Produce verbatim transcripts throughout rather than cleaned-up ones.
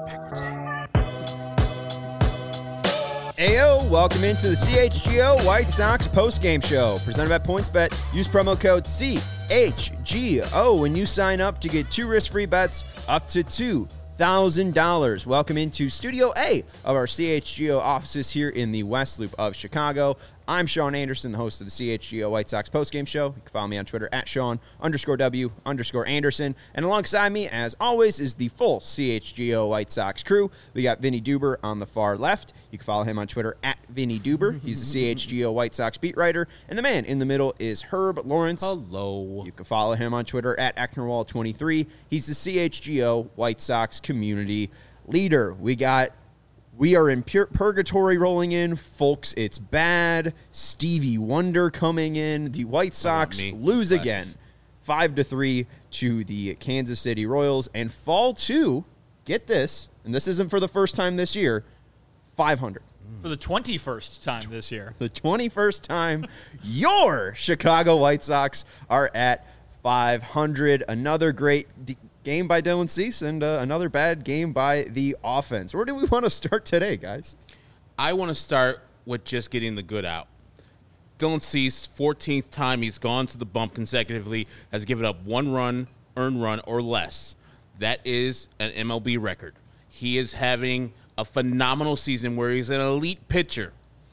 Ayo, welcome into the C H G O White Sox postgame show presented by PointsBet. Use promo code C H G O when you sign up to get two risk-free bets up to two thousand dollars. Welcome into Studio A of our C H G O offices here in the West Loop of Chicago. I'm Sean Anderson, the host of the C H G O White Sox postgame show. You can follow me on Twitter at Sean underscore W underscore Anderson. And alongside me, as always, is the full C H G O White Sox crew. We got Vinny Duber on the far left. You can follow him on Twitter at Vinny Duber. He's the C H G O White Sox beat writer. And the man in the middle is Herb Lawrence. Hello. You can follow him on Twitter at Ecknerwall twenty-three. He's the C H G O White Sox community leader. We got... We are in pure purgatory rolling in. Folks, it's bad. Stevie Wonder coming in. The White Sox lose again, five to three to the Kansas City Royals, and fall to, get this, and this isn't for the first time this year, five hundred. For the twenty-first time this year. The twenty-first time your Chicago White Sox are at five hundred. Another great de- game by Dylan Cease and uh, another bad game by the offense. Where do we want to start today, guys? I want to start with just getting the good out. Dylan Cease, fourteenth time he's gone to the bump consecutively, has given up one run, earned run, or less. That is an M L B record. He is having a phenomenal season where he's an elite pitcher.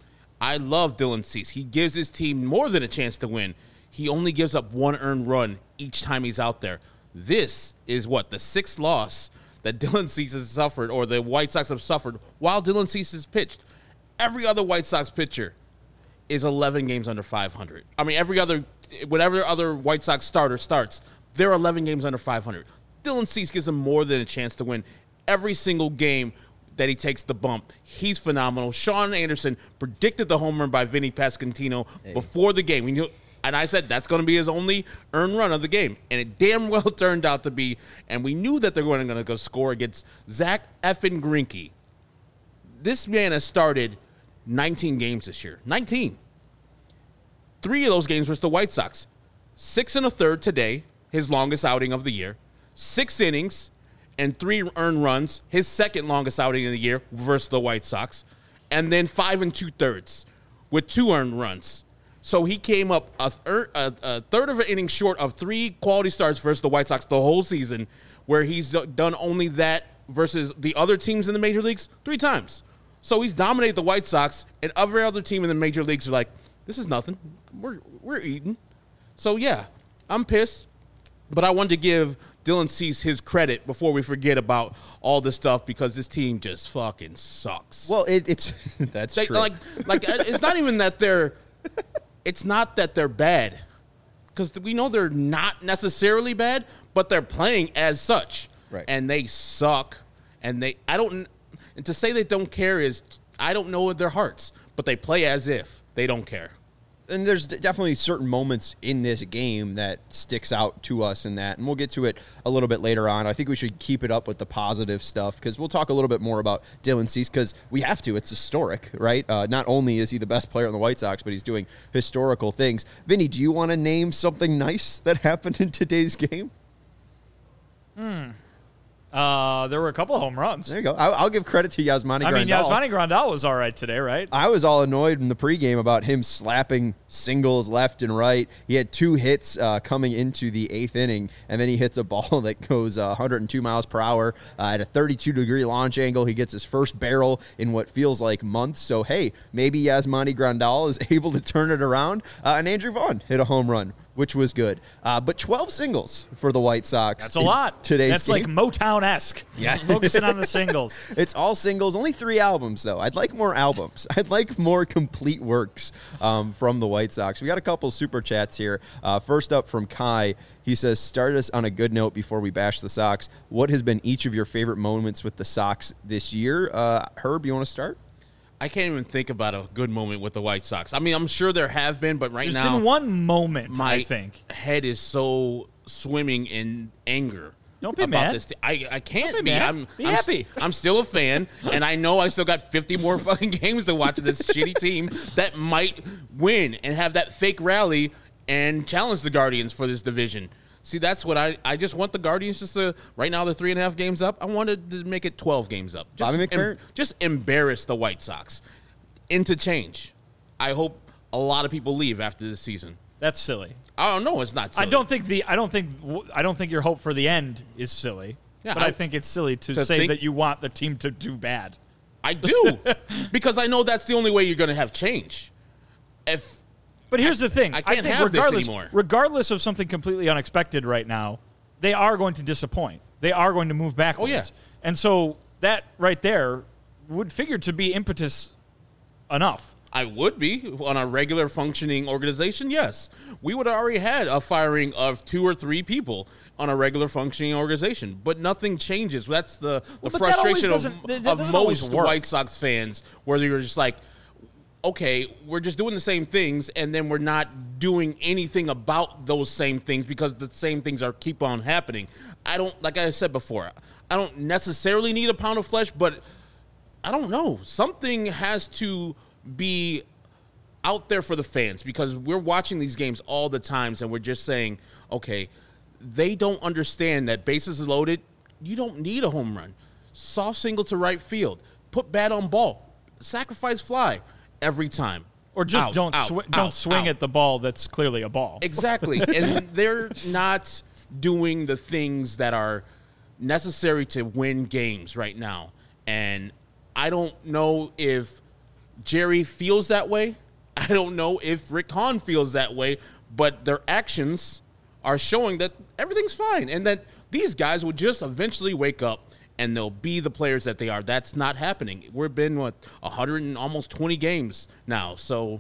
I love Dylan Cease. He gives his team more than a chance to win. He only gives up one earned run each time he's out there. This is what, the sixth loss that Dylan Cease has suffered, or the White Sox have suffered, while Dylan Cease has pitched. Every other White Sox pitcher is eleven games under five hundred. I mean, every other, whatever other White Sox starter starts, they're eleven games under five hundred. Dylan Cease gives them more than a chance to win every single game that he takes the bump. He's phenomenal. Sean Anderson predicted the home run by Vinny Pasquantino hey. before the game. We knew. And I said that's going to be his only earned run of the game. And it damn well turned out to be. And we knew that they were going to go score against Zach effing Greinke. This man has started nineteen games this year. nineteen. Three of those games versus the White Sox. Six and a third today, his longest outing of the year. Six innings and three earned runs, his second longest outing of the year versus the White Sox. And then five and two thirds with two earned runs. So he came up a, thir- a, a third of an inning short of three quality starts versus the White Sox the whole season, where he's done only that versus the other teams in the major leagues three times. So he's dominated the White Sox, and every other team in the major leagues are like, this is nothing. We're we're eating. So, yeah, I'm pissed. But I wanted to give Dylan Cease his credit before we forget about all this stuff, because this team just fucking sucks. Well, it, it's that's they, true. Like, like it's not even that they're – it's not that they're bad, because we know they're not necessarily bad, but they're playing as such. Right. And they suck. And they – I don't – and to say they don't care is – I don't know their hearts, but they play as if they don't care. And there's definitely certain moments in this game that sticks out to us in that, and we'll get to it a little bit later on. I think we should keep it up with the positive stuff, because we'll talk a little bit more about Dylan Cease, because we have to. It's historic, right? Uh, not only is he the best player on the White Sox, but he's doing historical things. Vinny, do you want to name something nice that happened in today's game? Hmm. Uh, there were a couple of home runs. There you go. I'll, I'll give credit to Yasmani Grandal. I mean, Yasmani Grandal was all right today, right? I was all annoyed in the pregame about him slapping singles left and right. He had two hits uh, coming into the eighth inning, and then he hits a ball that goes uh, one hundred two miles per hour uh, at a thirty-two degree launch angle. He gets his first barrel in what feels like months. So, hey, maybe Yasmani Grandal is able to turn it around. Uh, and Andrew Vaughn hit a home run, which was good. Uh, but twelve singles for the White Sox. That's a lot. Today's That's game. like Motown-esque. Yeah. Focusing on the singles. It's all singles. Only three albums, though. I'd like more albums. I'd like more complete works um, from the White Sox. We got a couple super chats here. Uh, first up from Kai. He says, start us on a good note before we bash the Sox. What has been each of your favorite moments with the Sox this year? Uh, Herb, you want to start? I can't even think about a good moment with the White Sox. I mean, I'm sure there have been, but right There's now, There's been one moment, my I think. head is so swimming in anger. Don't be about mad. This. I, I can't Don't be be. mad. I'm, Be I'm, happy. I'm still a fan, and I know I still got fifty more fucking games to watch of this shitty team that might win and have that fake rally and challenge the Guardians for this division. See, that's what I, I just want the Guardians just to, right now they're three and a half games up. I wanted to make it twelve games up. Just, Bobby McFerrin? em, just embarrass the White Sox into change. I hope a lot of people leave after this season. That's silly. I don't know. It's not silly. I don't think the I don't think I don't think your hope for the end is silly. Yeah, but I, I think it's silly to, to say think- that you want the team to do bad. I do. Because I know that's the only way you're going to have change. If But here's the thing. I can't think have this regardless, anymore. regardless of something completely unexpected right now, they are going to disappoint. They are going to move backwards. Oh, yeah. And so that right there would figure to be impetus enough. I would be on a regular functioning organization, yes. We would have already had a firing of two or three people on a regular functioning organization, but nothing changes. That's the, the Well, but that always frustration of, doesn't- that of doesn't always most work. White Sox fans, where you're just like, okay, we're just doing the same things, and then we're not doing anything about those same things because the same things are keep on happening. I don't, like I said before, I don't necessarily need a pound of flesh, but I don't know. Something has to be out there for the fans because we're watching these games all the times and we're just saying, okay, they don't understand that bases are loaded. You don't need a home run. Soft single to right field. Put bat on ball. Sacrifice fly every time. Or just Out, don't out, swi- out, don't swing out. at the ball that's clearly a ball. Exactly. And they're not doing the things that are necessary to win games right now. And I don't know if Jerry feels that way. I don't know if Rick Hahn feels that way, but their actions are showing that everything's fine and that these guys will just eventually wake up and they'll be the players that they are. That's not happening. We've been, what, one hundred and almost twenty games now. So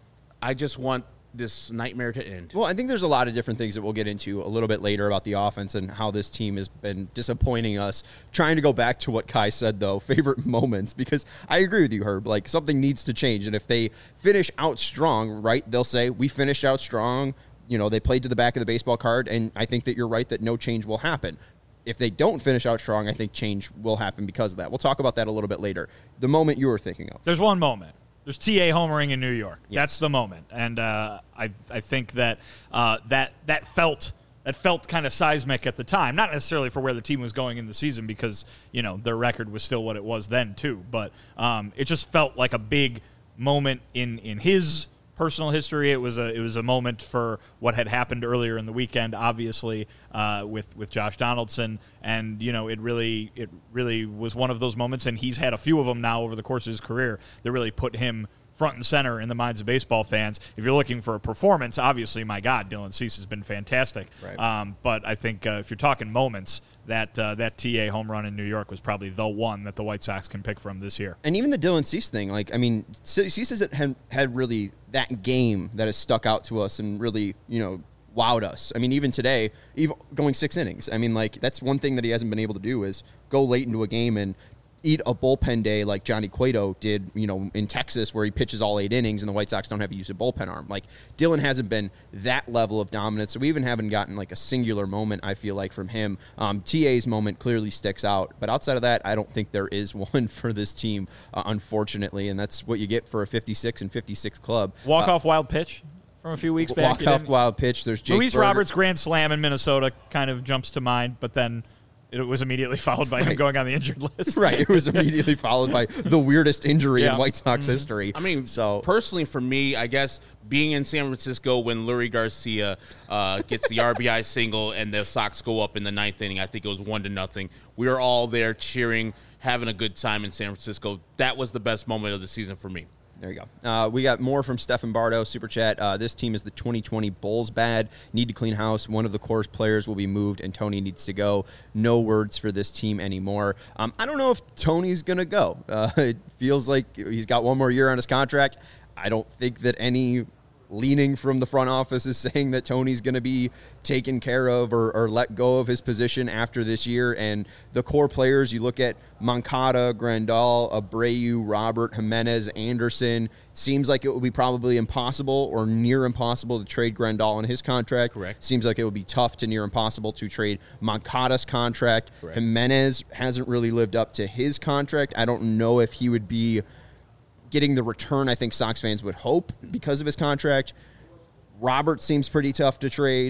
I just want this nightmare to end. Well, I think there's a lot of different things that we'll get into a little bit later about the offense and how this team has been disappointing us. Trying to go back to what Kai said, though, favorite moments, because I agree with you, Herb. Like, something needs to change. And if they finish out strong, right, they'll say, we finished out strong. You know, they played to the back of the baseball card, and I think that you're right that no change will happen. If they don't finish out strong, I think change will happen because of that. We'll talk about that a little bit later. The moment you were thinking of. There's one moment. There's T A homering in New York. Yes. That's the moment, and uh, I I think that uh, that that felt that felt kind of seismic at the time. Not necessarily for where the team was going in the season, because you know their record was still what it was then too. But um, it just felt like a big moment in in his personal history. It was a it was a moment for what had happened earlier in the weekend, obviously uh, with with Josh Donaldson, and you know it really it really was one of those moments, and he's had a few of them now over the course of his career that really put him front and center in the minds of baseball fans. If you're looking for a performance, obviously, my God, Dylan Cease has been fantastic. Right. Um, but I think uh, if you're talking moments, that uh, that T A home run in New York was probably the one that the White Sox can pick from this year. And even the Dylan Cease thing, like, I mean, Cease hasn't had, had really that game that has stuck out to us and really, you know, wowed us. I mean, even today, even going six innings. I mean, like, that's one thing that he hasn't been able to do is go late into a game and eat a bullpen day like Johnny Cueto did, you know, in Texas, where he pitches all eight innings and the White Sox don't have to use a bullpen arm. Like, Dylan hasn't been that level of dominance, so we even haven't gotten like a singular moment, I feel like, from him. Um, T A's moment clearly sticks out, but outside of that, I don't think there is one for this team, uh, unfortunately, and that's what you get for a fifty-six and fifty-six club. Walk Uh, off wild pitch from a few weeks back. walk You off didn't- wild pitch. There's Jake Luis Berger. Roberts' grand slam in Minnesota kind of jumps to mind, but then it was immediately followed by him Right. going on the injured list. Right, it was immediately followed by the weirdest injury Yeah. in White Sox history. I mean, so personally, for me, I guess being in San Francisco when Lurie Garcia uh, gets the R B I single and the Sox go up in the ninth inning, I think it was one to nothing. We were all there cheering, having a good time in San Francisco. That was the best moment of the season for me. There you go. Uh, we got more from Stefan Bardo, Super Chat. Uh, this team is the twenty twenty Bulls bad. Need to clean house. One of the core players will be moved, and Tony needs to go. No words for this team anymore. Um, I don't know if Tony's going to go. Uh, it feels like he's got one more year on his contract. I don't think that any leaning from the front office is saying that Tony's going to be taken care of or, or let go of his position after this year. And the core players, you look at Moncada, Grandal, Abreu, Robert, Jimenez, Anderson. Seems like it would be probably impossible or near impossible to trade Grandal on his contract. Correct. Seems like it would be tough to near impossible to trade Moncada's contract. Correct. Jimenez hasn't really lived up to his contract. I don't know if he would be getting the return I think Sox fans would hope because of his contract. Robert seems pretty tough to trade.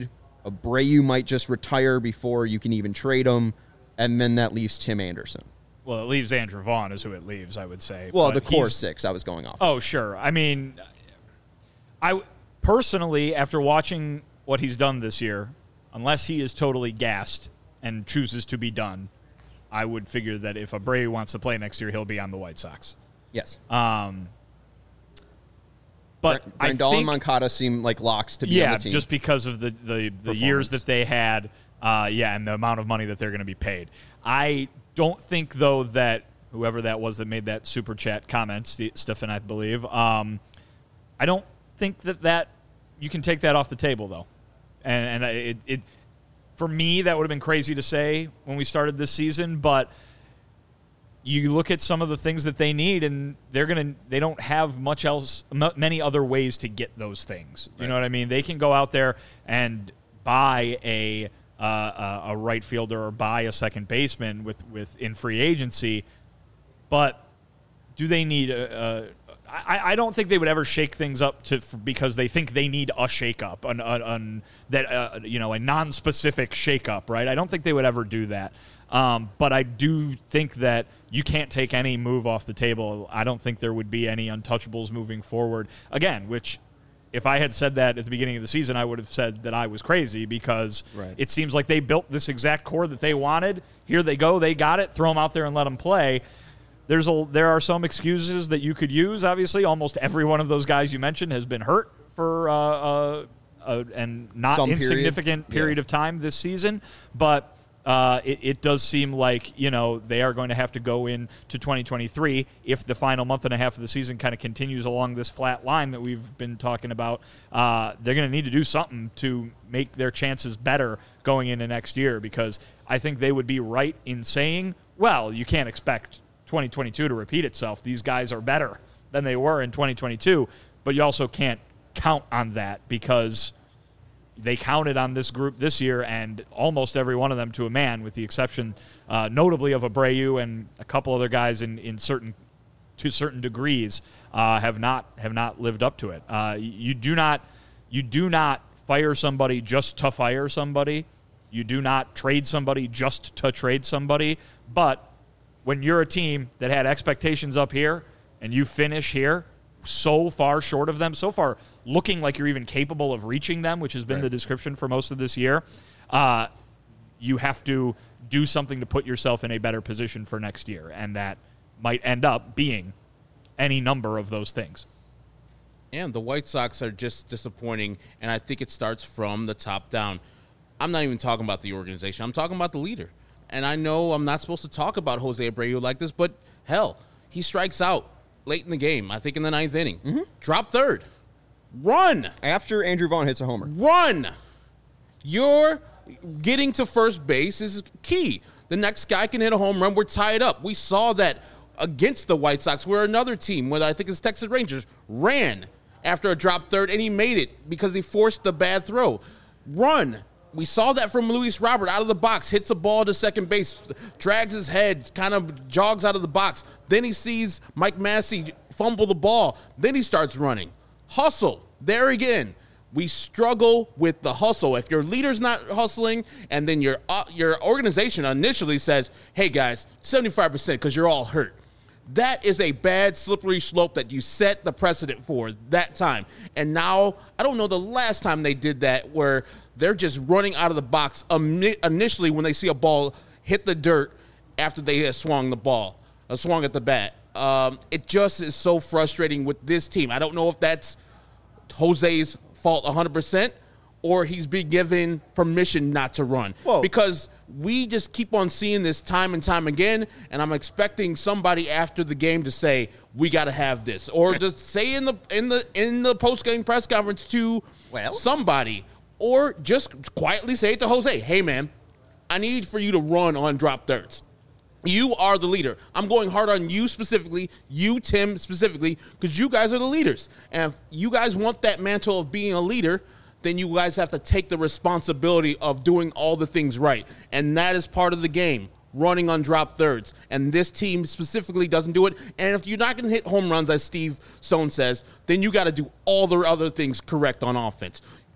Abreu might just retire before you can even trade him, and then that leaves Tim Anderson. Well, it leaves Andrew Vaughn is who it leaves, I would say. Well, but the core he's- six I was going off. Oh, sure. I mean, I personally, after watching what he's done this year, unless he is totally gassed and chooses to be done, I would figure that if Abreu wants to play next year, he'll be on the White Sox. Yes. Um, but I Grandal think, and Moncada seem like locks to be yeah, on the team. just because of the the, the years that they had, uh, yeah, and the amount of money that they're going to be paid. I don't think, though, that whoever that was that made that super chat comment, St- Stefan, I believe, um, I don't think that that you can take that off the table, though. And, and it, it, for me, that would have been crazy to say when we started this season, but you look at some of the things that they need, and they're gonna they don't have much else, many other ways to get those things. You right. know what I mean? They can go out there and buy a uh, a right fielder or buy a second baseman with, with in free agency, but do they need a, a I, I don't think they would ever shake things up to because they think they need a shakeup, an, an, an that uh, you know a non-specific shakeup, right? I don't think they would ever do that. Um, but I do think that you can't take any move off the table. I don't think there would be any untouchables moving forward. Again, which if I had said that at the beginning of the season, I would have said that I was crazy because right. it seems like they built this exact core that they wanted. Here they go. They got it. Throw them out there and let them play. There's a, there are some excuses that you could use. Obviously, almost every one of those guys you mentioned has been hurt for uh, uh, uh, and not Some insignificant period, period yeah. of time this season. But uh, it, it does seem like, you know, they are going to have to go into twenty twenty-three if the final month and a half of the season kind of continues along this flat line that we've been talking about. Uh, they're going to need to do something to make their chances better going into next year, because I think they would be right in saying, well, you can't expect twenty twenty-two to repeat itself. These guys are better than they were in twenty twenty-two, but you also can't count on that because they counted on this group this year, and almost every one of them to a man, with the exception uh, notably of Abreu and a couple other guys in, in certain to certain degrees uh, have not have not lived up to it. Uh, you do not you do not fire somebody just to fire somebody. You do not trade somebody just to trade somebody. But when you're a team that had expectations up here and you finish here so far short of them, so far looking like you're even capable of reaching them, which has been right. the description for most of this year, uh, you have to do something to put yourself in a better position for next year. And that might end up being any number of those things. And the White Sox are just disappointing, and I think it starts from the top down. I'm not even talking about the organization. I'm talking about the leader. And I know I'm not supposed to talk about Jose Abreu like this, but hell, he strikes out late in the game, I think in the ninth inning. Mm-hmm. Drop third. Run. After Andrew Vaughn hits a homer. Run. You're getting to first base is key. The next guy can hit a home run. We're tied up. We saw that against the White Sox, where another team, whether I think it's Texas Rangers, ran after a drop third, and he made it because he forced the bad throw. Run. We saw that from Luis Robert out of the box, hits a ball to second base, drags his head, kind of jogs out of the box. Then he sees Mike Massey fumble the ball. Then he starts running. Hustle. There again. We struggle with the hustle. If your leader's not hustling, and then your uh, your organization initially says, hey, guys, seventy-five percent because you're all hurt. That is a bad, slippery slope that you set the precedent for that time. And now, I don't know the last time they did that, where they're just running out of the box initially when they see a ball hit the dirt after they have swung the ball, uh, swung at the bat. Um, it just is so frustrating with this team. I don't know if that's Jose's fault one hundred percent or he's been given permission not to run. Whoa. Because we just keep on seeing this time and time again, and I'm expecting somebody after the game to say, we got to have this. Or just say in the in the in the post-game press conference to well. somebody, or just quietly say it to Jose, hey, man, I need for you to run on drop thirds. You are the leader. I'm going hard on you specifically, you, Tim, specifically, because you guys are the leaders. And if you guys want that mantle of being a leader, then you guys have to take the responsibility of doing all the things right. And that is part of the game, running on drop thirds. And this team specifically doesn't do it. And if you're not going to hit home runs, as Steve Stone says, then you got to do all the other things correct on offense.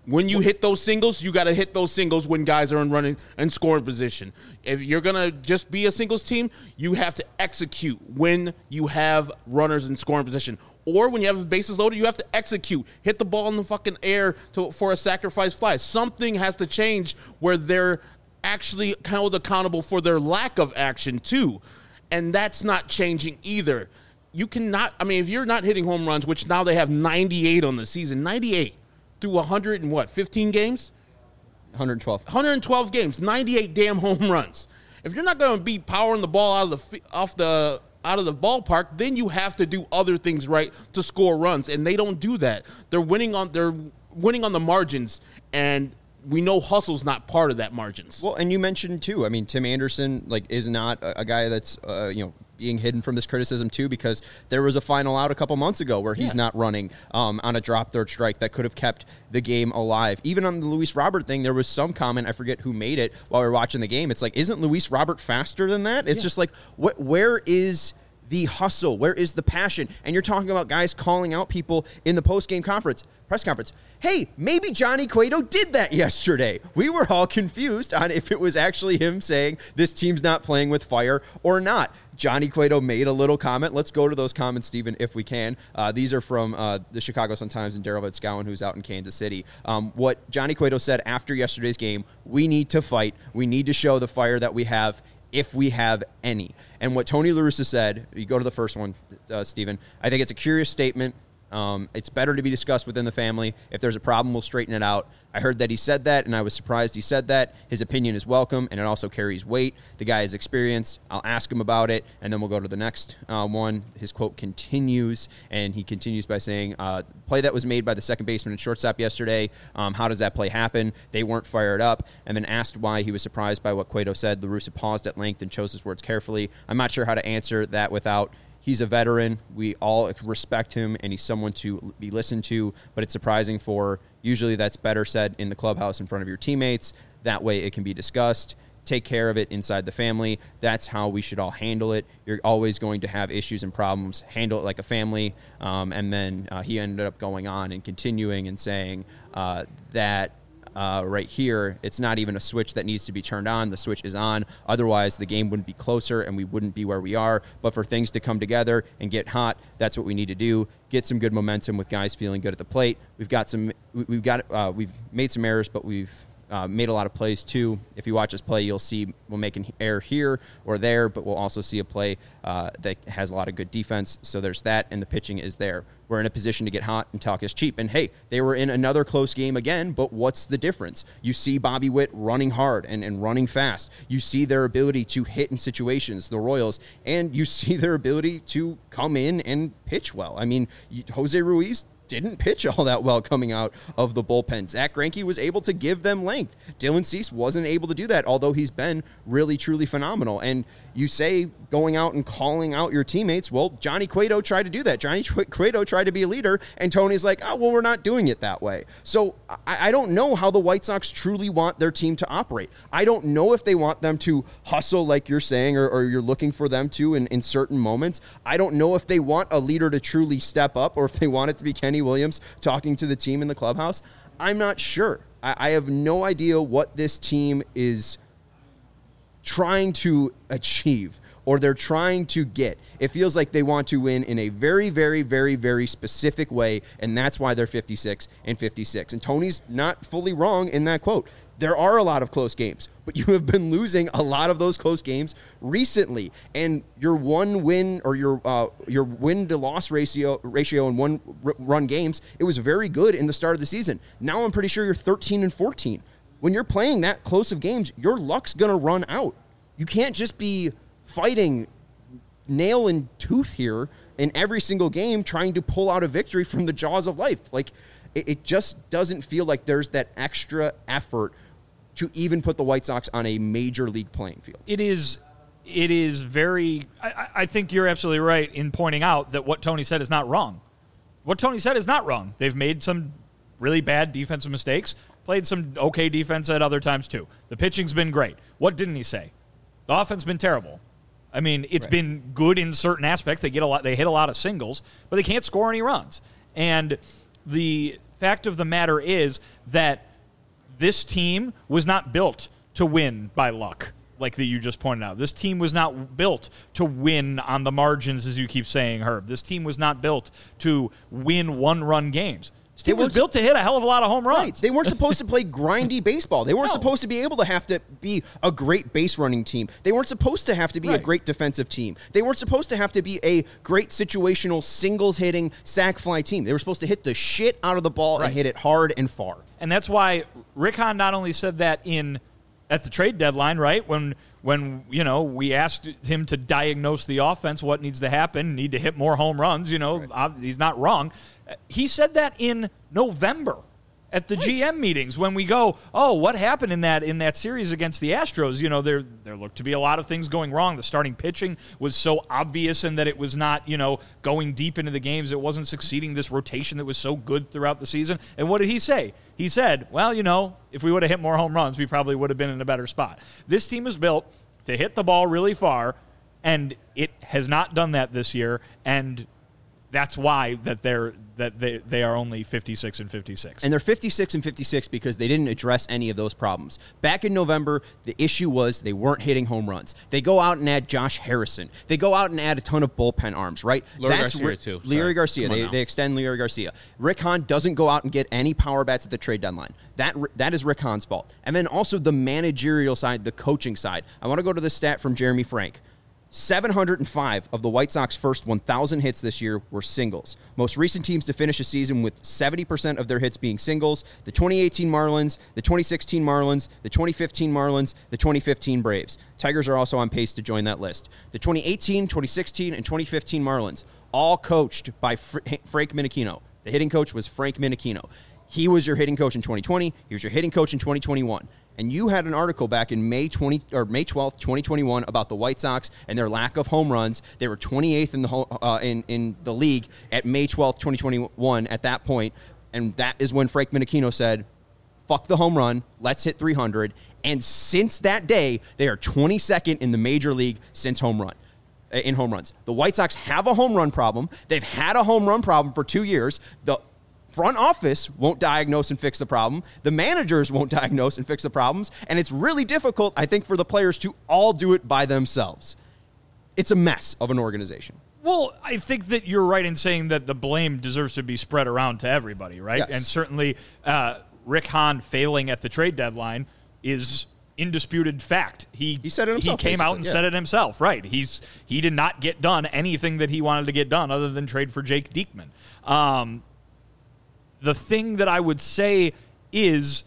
When you hit those singles, you got to hit those singles when guys are in running and scoring position. If you're going to just be a singles team, you have to execute when you have runners in scoring position. Or when you have the bases loaded, you have to execute. Hit the ball in the fucking air to, for a sacrifice fly. Something has to change where they're actually held accountable for their lack of action too. And that's not changing either. You cannot, I mean, if you're not hitting home runs, which now they have ninety-eight on the season, ninety-eight through one hundred and what, fifteen games? one hundred twelve. one hundred twelve games, ninety-eight damn home runs. If you're not going to be powering the ball out of the off the out of the ballpark, then you have to do other things right to score runs, and they don't do that. They're winning on they're winning on the margins, and we know hustle's not part of that margins. Well, and you mentioned too, I mean, Tim Anderson like is not a, a guy that's uh, you know being hidden from this criticism too, because there was a final out a couple months ago where he's yeah. not running um, on a drop third strike that could have kept the game alive. Even on the Luis Robert thing, there was some comment, I forget who made it while we were watching the game. It's like, isn't Luis Robert faster than that? It's yeah. just like, what? Where is the hustle? Where is the passion? And you're talking about guys calling out people in the post-game conference, press conference. Hey, maybe Johnny Cueto did that yesterday. We were all confused on if it was actually him saying this team's not playing with fire or not. Johnny Cueto made a little comment. Let's go to those comments, Stephen, if we can. Uh, these are from uh, the Chicago Sun-Times and Daryl Vitzgowan, who's out in Kansas City. Um, what Johnny Cueto said after yesterday's game, we need to fight. We need to show the fire that we have, if we have any. And what Tony La Russa said, you go to the first one, uh, Stephen, I think it's a curious statement. Um, it's better to be discussed within the family. If there's a problem, we'll straighten it out. I heard that he said that, and I was surprised he said that. His opinion is welcome, and it also carries weight. The guy is experienced. I'll ask him about it, and then we'll go to the next uh, one. His quote continues, and he continues by saying, uh, play that was made by the second baseman and shortstop yesterday, um, how does that play happen? They weren't fired up. And then asked why he was surprised by what Cueto said. La Russa paused at length and chose his words carefully. I'm not sure how to answer that without... He's a veteran. We all respect him, and he's someone to be listened to, but it's surprising for usually that's better said in the clubhouse in front of your teammates. That way it can be discussed. Take care of it inside the family. That's how we should all handle it. You're always going to have issues and problems. Handle it like a family. Um, and then uh, he ended up going on and continuing and saying uh, that Uh, right here, it's not even a switch that needs to be turned on. The switch is on. Otherwise, the game wouldn't be closer and we wouldn't be where we are. But for things to come together and get hot, that's what we need to do. Get some good momentum with guys feeling good at the plate. We've got some. We've got. Uh, we've made some errors, but we've uh, made a lot of plays too. If you watch us play, you'll see we'll make an error here or there, but we'll also see a play uh, that has a lot of good defense. So there's that, and the pitching is there. We're in a position to get hot, and talk is cheap. And, hey, they were in another close game again, but what's the difference? You see Bobby Witt running hard and, and running fast. You see their ability to hit in situations, the Royals, and you see their ability to come in and pitch well. I mean, Jose Ruiz didn't pitch all that well coming out of the bullpen. Zach Greinke was able to give them length. Dylan Cease wasn't able to do that, although he's been really, truly phenomenal. And you say going out and calling out your teammates, well, Johnny Cueto tried to do that. Johnny Cueto tried to be a leader, and Tony's like, oh, well, we're not doing it that way. So I, I don't know how the White Sox truly want their team to operate. I don't know if they want them to hustle like you're saying, or, or you're looking for them to in, in certain moments. I don't know if they want a leader to truly step up, or if they want it to be Kenny Williams talking to the team in the clubhouse. I'm not sure. I, I have no idea what this team is trying to achieve, or they're trying to get. It feels like they want to win in a very, very, very, very specific way, and that's why they're fifty-six and fifty-six. And Tony's not fully wrong in that quote. There are a lot of close games, but you have been losing a lot of those close games recently. And your one win or your uh, your win to loss ratio ratio in one r- run games, it was very good in the start of the season. Now I'm pretty sure you're thirteen and fourteen. When you're playing that close of games, your luck's going to run out. You can't just be fighting nail and tooth here in every single game trying to pull out a victory from the jaws of life. Like, it, it just doesn't feel like there's that extra effort to even put the White Sox on a major league playing field. It is it is very I, I think you're absolutely right in pointing out that what Tony said is not wrong. What Tony said is not wrong. They've made some really bad defensive mistakes, played some okay defense at other times too. The pitching's been great. What didn't he say? The offense has been terrible. I mean, it's right. been good in certain aspects. They get a lot. They hit a lot of singles, but they can't score any runs. And the fact of the matter is that this team was not built to win by luck, like that you just pointed out. This team was not built to win on the margins, as you keep saying, Herb. This team was not built to win one-run games. This team was built to hit a hell of a lot of home runs. Right. They weren't supposed to play grindy baseball. They weren't No. supposed to be able to have to be a great base running team. They weren't supposed to have to be Right. a great defensive team. They weren't supposed to have to be a great situational singles hitting sac fly team. They were supposed to hit the shit out of the ball Right. and hit it hard and far. And that's why Rick Hahn not only said that in at the trade deadline, right? When when you know we asked him to diagnose the offense, what needs to happen, need to hit more home runs. You know, right. He's not wrong. He said that in November at the right. G M meetings when we go, oh, what happened in that in that series against the Astros? You know, there there looked to be a lot of things going wrong. The starting pitching was so obvious, and that it was not, you know, going deep into the games. It wasn't succeeding this rotation that was so good throughout the season. And what did he say? He said, well, you know, if we would have hit more home runs, we probably would have been in a better spot. This team is built to hit the ball really far, and it has not done that this year, and that's why that they're that they, they are only fifty-six and fifty-six. And they're fifty-six and fifty-six because they didn't address any of those problems. Back in November, the issue was they weren't hitting home runs. They go out and add Josh Harrison. They go out and add a ton of bullpen arms, right? Larry Garcia, Rick, too. Larry Sorry. Garcia. They, they extend Larry Garcia. Rick Hahn doesn't go out and get any power bats at the trade deadline. That That is Rick Hahn's fault. And then also the managerial side, the coaching side. I want to go to the stat from Jeremy Frank. seven hundred five of the White Sox first one thousand hits this year were singles. Most recent teams to finish a season with seventy percent of their hits being singles: the twenty eighteen Marlins, the twenty sixteen Marlins, the twenty fifteen Marlins, the twenty fifteen Braves. Tigers are also on pace to join that list. The twenty eighteen, twenty sixteen, and twenty fifteen Marlins, all coached by Fr- Frank Minichino. The hitting coach was Frank Minichino. He was your hitting coach in twenty twenty. He was your hitting coach in twenty twenty-one. And you had an article back in May twentieth or May twelfth, twenty twenty-one, about the White Sox and their lack of home runs. They were twenty-eighth in the ho- uh, in in the league at May twelfth, twenty twenty-one. At that point, and that is when Frank Minichino said, "Fuck the home run, let's hit three hundred." And since that day, they are twenty-second in the major league since home run. In home runs, the White Sox have a home run problem. They've had a home run problem for two years. The front office won't diagnose and fix the problem. The managers won't diagnose and fix the problems. And it's really difficult, I think, for the players to all do it by themselves. It's a mess of an organization. Well, I think that you're right in saying that the blame deserves to be spread around to everybody, right? Yes. And certainly uh, Rick Hahn failing at the trade deadline is indisputed fact. He He said it himself, He came out and yeah. said it himself, right? He's he did not get done anything that he wanted to get done other than trade for Jake Diekman. Um, the thing that I would say is,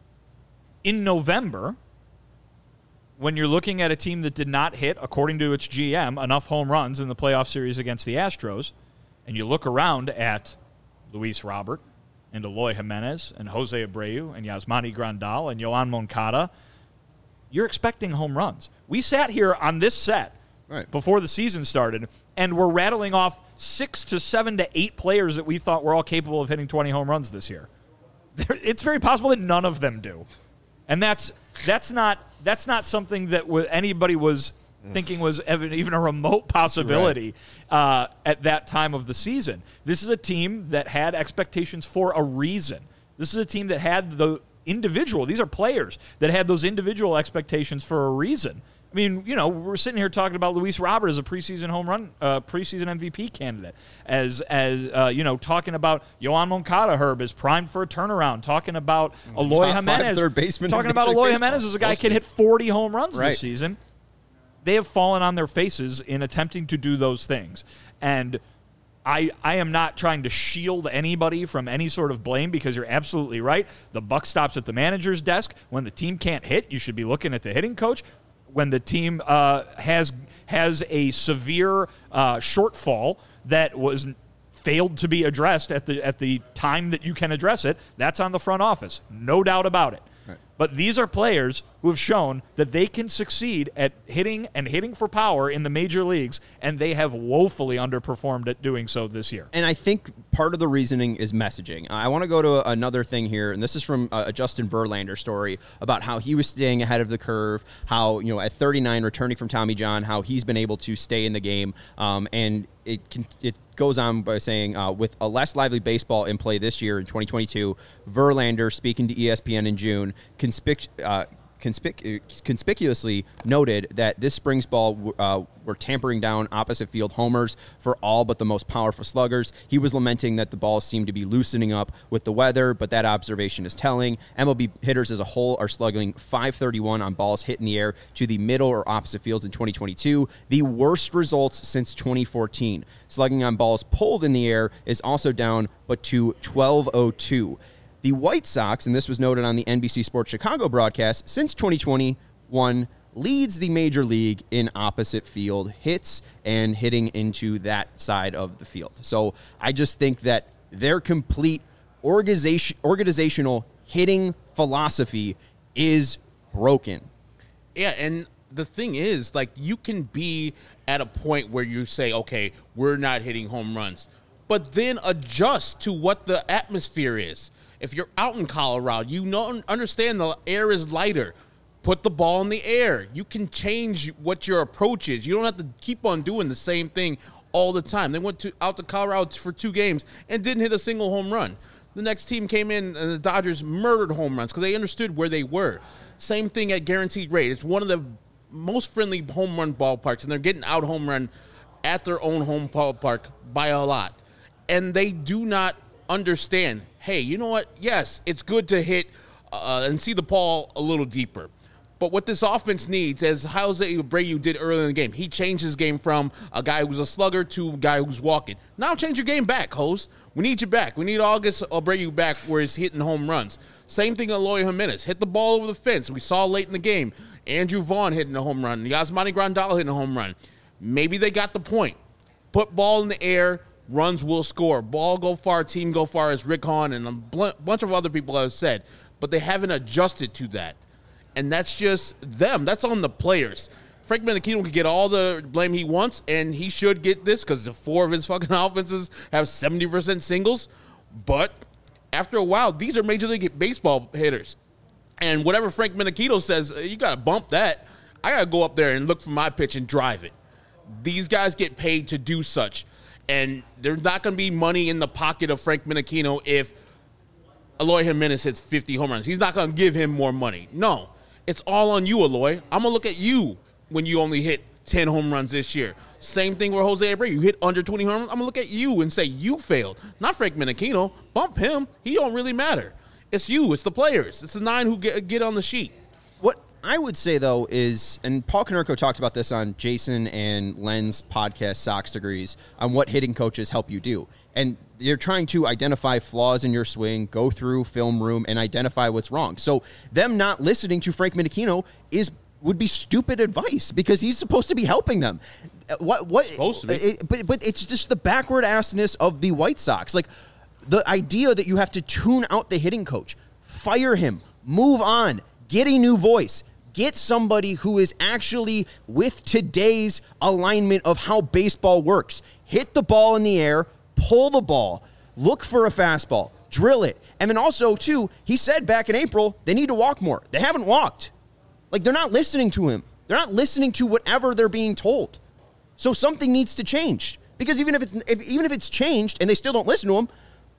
in November, when you're looking at a team that did not hit, according to its G M, enough home runs in the playoff series against the Astros, and you look around at Luis Robert and Eloy Jimenez and Jose Abreu and Yasmani Grandal and Yoan Moncada, you're expecting home runs. We sat here on this set Right. before the season started, and we're rattling off six to seven to eight players that we thought were all capable of hitting twenty home runs this year. It's very possible that none of them do, and that's that's not that's not something that w- anybody was thinking was ev- even a remote possibility right. uh, at that time of the season. This is a team that had expectations for a reason. This is a team that had the individual. These are players that had those individual expectations for a reason. I mean, you know, we're sitting here talking about Luis Robert as a preseason home run, uh, preseason M V P candidate, as as uh, you know, talking about Yoan Moncada, Herb, is primed for a turnaround. Talking about Eloy Top five Jimenez, third baseman in talking about Major League Eloy Baseball. Jimenez as a guy Supposed could to hit forty home runs Right. this season. They have fallen on their faces in attempting to do those things, and I, I am not trying to shield anybody from any sort of blame, because you're absolutely right. The buck stops at the manager's desk. When the team can't hit, you should be looking at the hitting coach. When the team uh, has has a severe uh, shortfall that was failed to be addressed at the at the time that you can address it, that's on the front office, no doubt about it. Right. But these are players who have shown that they can succeed at hitting and hitting for power in the major leagues, and they have woefully underperformed at doing so this year. And I think part of the reasoning is messaging. I want to go to another thing here, and this is from a Justin Verlander story about how he was staying ahead of the curve, how, you know, at thirty-nine, returning from Tommy John, how he's been able to stay in the game, um, and it can, it goes on by saying, uh, with a less lively baseball in play this year in twenty twenty-two, Verlander, speaking to E S P N in June, conspic- uh, conspic- conspicuously noted that this spring's ball uh, were tampering down opposite field homers for all but the most powerful sluggers. He was lamenting that the balls seemed to be loosening up with the weather, but that observation is telling. M L B hitters as a whole are slugging five thirty-one on balls hit in the air to the middle or opposite fields in twenty twenty-two, the worst results since twenty fourteen. Slugging on balls pulled in the air is also down, but to twelve oh two. The White Sox, and this was noted on the N B C Sports Chicago broadcast, since twenty twenty-one leads the major league in opposite field hits and hitting into that side of the field. So I just think that their complete organization, organizational hitting philosophy is broken. Yeah, and the thing is, like, you can be at a point where you say, okay, we're not hitting home runs, but then adjust to what the atmosphere is. If you're out in Colorado, you know, understand the air is lighter. Put the ball in the air. You can change what your approach is. You don't have to keep on doing the same thing all the time. They went to out to Colorado for two games and didn't hit a single home run. The next team came in, and the Dodgers murdered home runs because they understood where they were. Same thing at Guaranteed Rate. It's one of the most friendly home run ballparks, and they're getting out home run at their own home ballpark by a lot. And they do not understand, hey, you know what? Yes, it's good to hit uh, and see the ball a little deeper. But what this offense needs, as Jose Abreu did earlier in the game, he changed his game from a guy who's a slugger to a guy who's walking. Now change your game back, Jose. We need you back. We need August Abreu back where he's hitting home runs. Same thing with Eloy Jimenez. Hit the ball over the fence. We saw late in the game Andrew Vaughn hitting a home run, Yasmani Grandal hitting a home run. Maybe they got the point. Put ball in the air, runs will score. Ball go far, team go far, as Rick Hahn and a bl- bunch of other people have said. But they haven't adjusted to that. And that's just them. That's on the players. Frank Menachino can get all the blame he wants, and he should get this because the four of his fucking offenses have seventy percent singles. But after a while, these are Major League Baseball hitters. And whatever Frank Menachino says, you got to bump that. I got to go up there and look for my pitch and drive it. These guys get paid to do such. And there's not going to be money in the pocket of Frank Menachino if Eloy Jimenez hits fifty home runs. He's not going to give him more money. No. It's all on you, Eloy. I'm going to look at you when you only hit ten home runs this year. Same thing with Jose Abreu. You hit under twenty home runs, I'm going to look at you and say you failed. Not Frank Menachino. Bump him. He don't really matter. It's you. It's the players. It's the nine who get, get on the sheet. What I would say, though, is, and Paul Konerko talked about this on Jason and Len's podcast, Sox Degrees, on what hitting coaches help you do. And you're trying to identify flaws in your swing, go through film room, and identify what's wrong. So them not listening to Frank Menachino is would be stupid advice because he's supposed to be helping them. What? What? Supposed to be. It, but but it's just the backward assness of the White Sox. Like the idea that you have to tune out the hitting coach, fire him, move on, get a new voice. Get somebody who is actually with today's alignment of how baseball works. Hit the ball in the air, pull the ball, look for a fastball, drill it. And then also, too, he said back in April, they need to walk more. They haven't walked. Like, they're not listening to him. They're not listening to whatever they're being told. So something needs to change. Because even if it's if, even if it's changed and they still don't listen to him,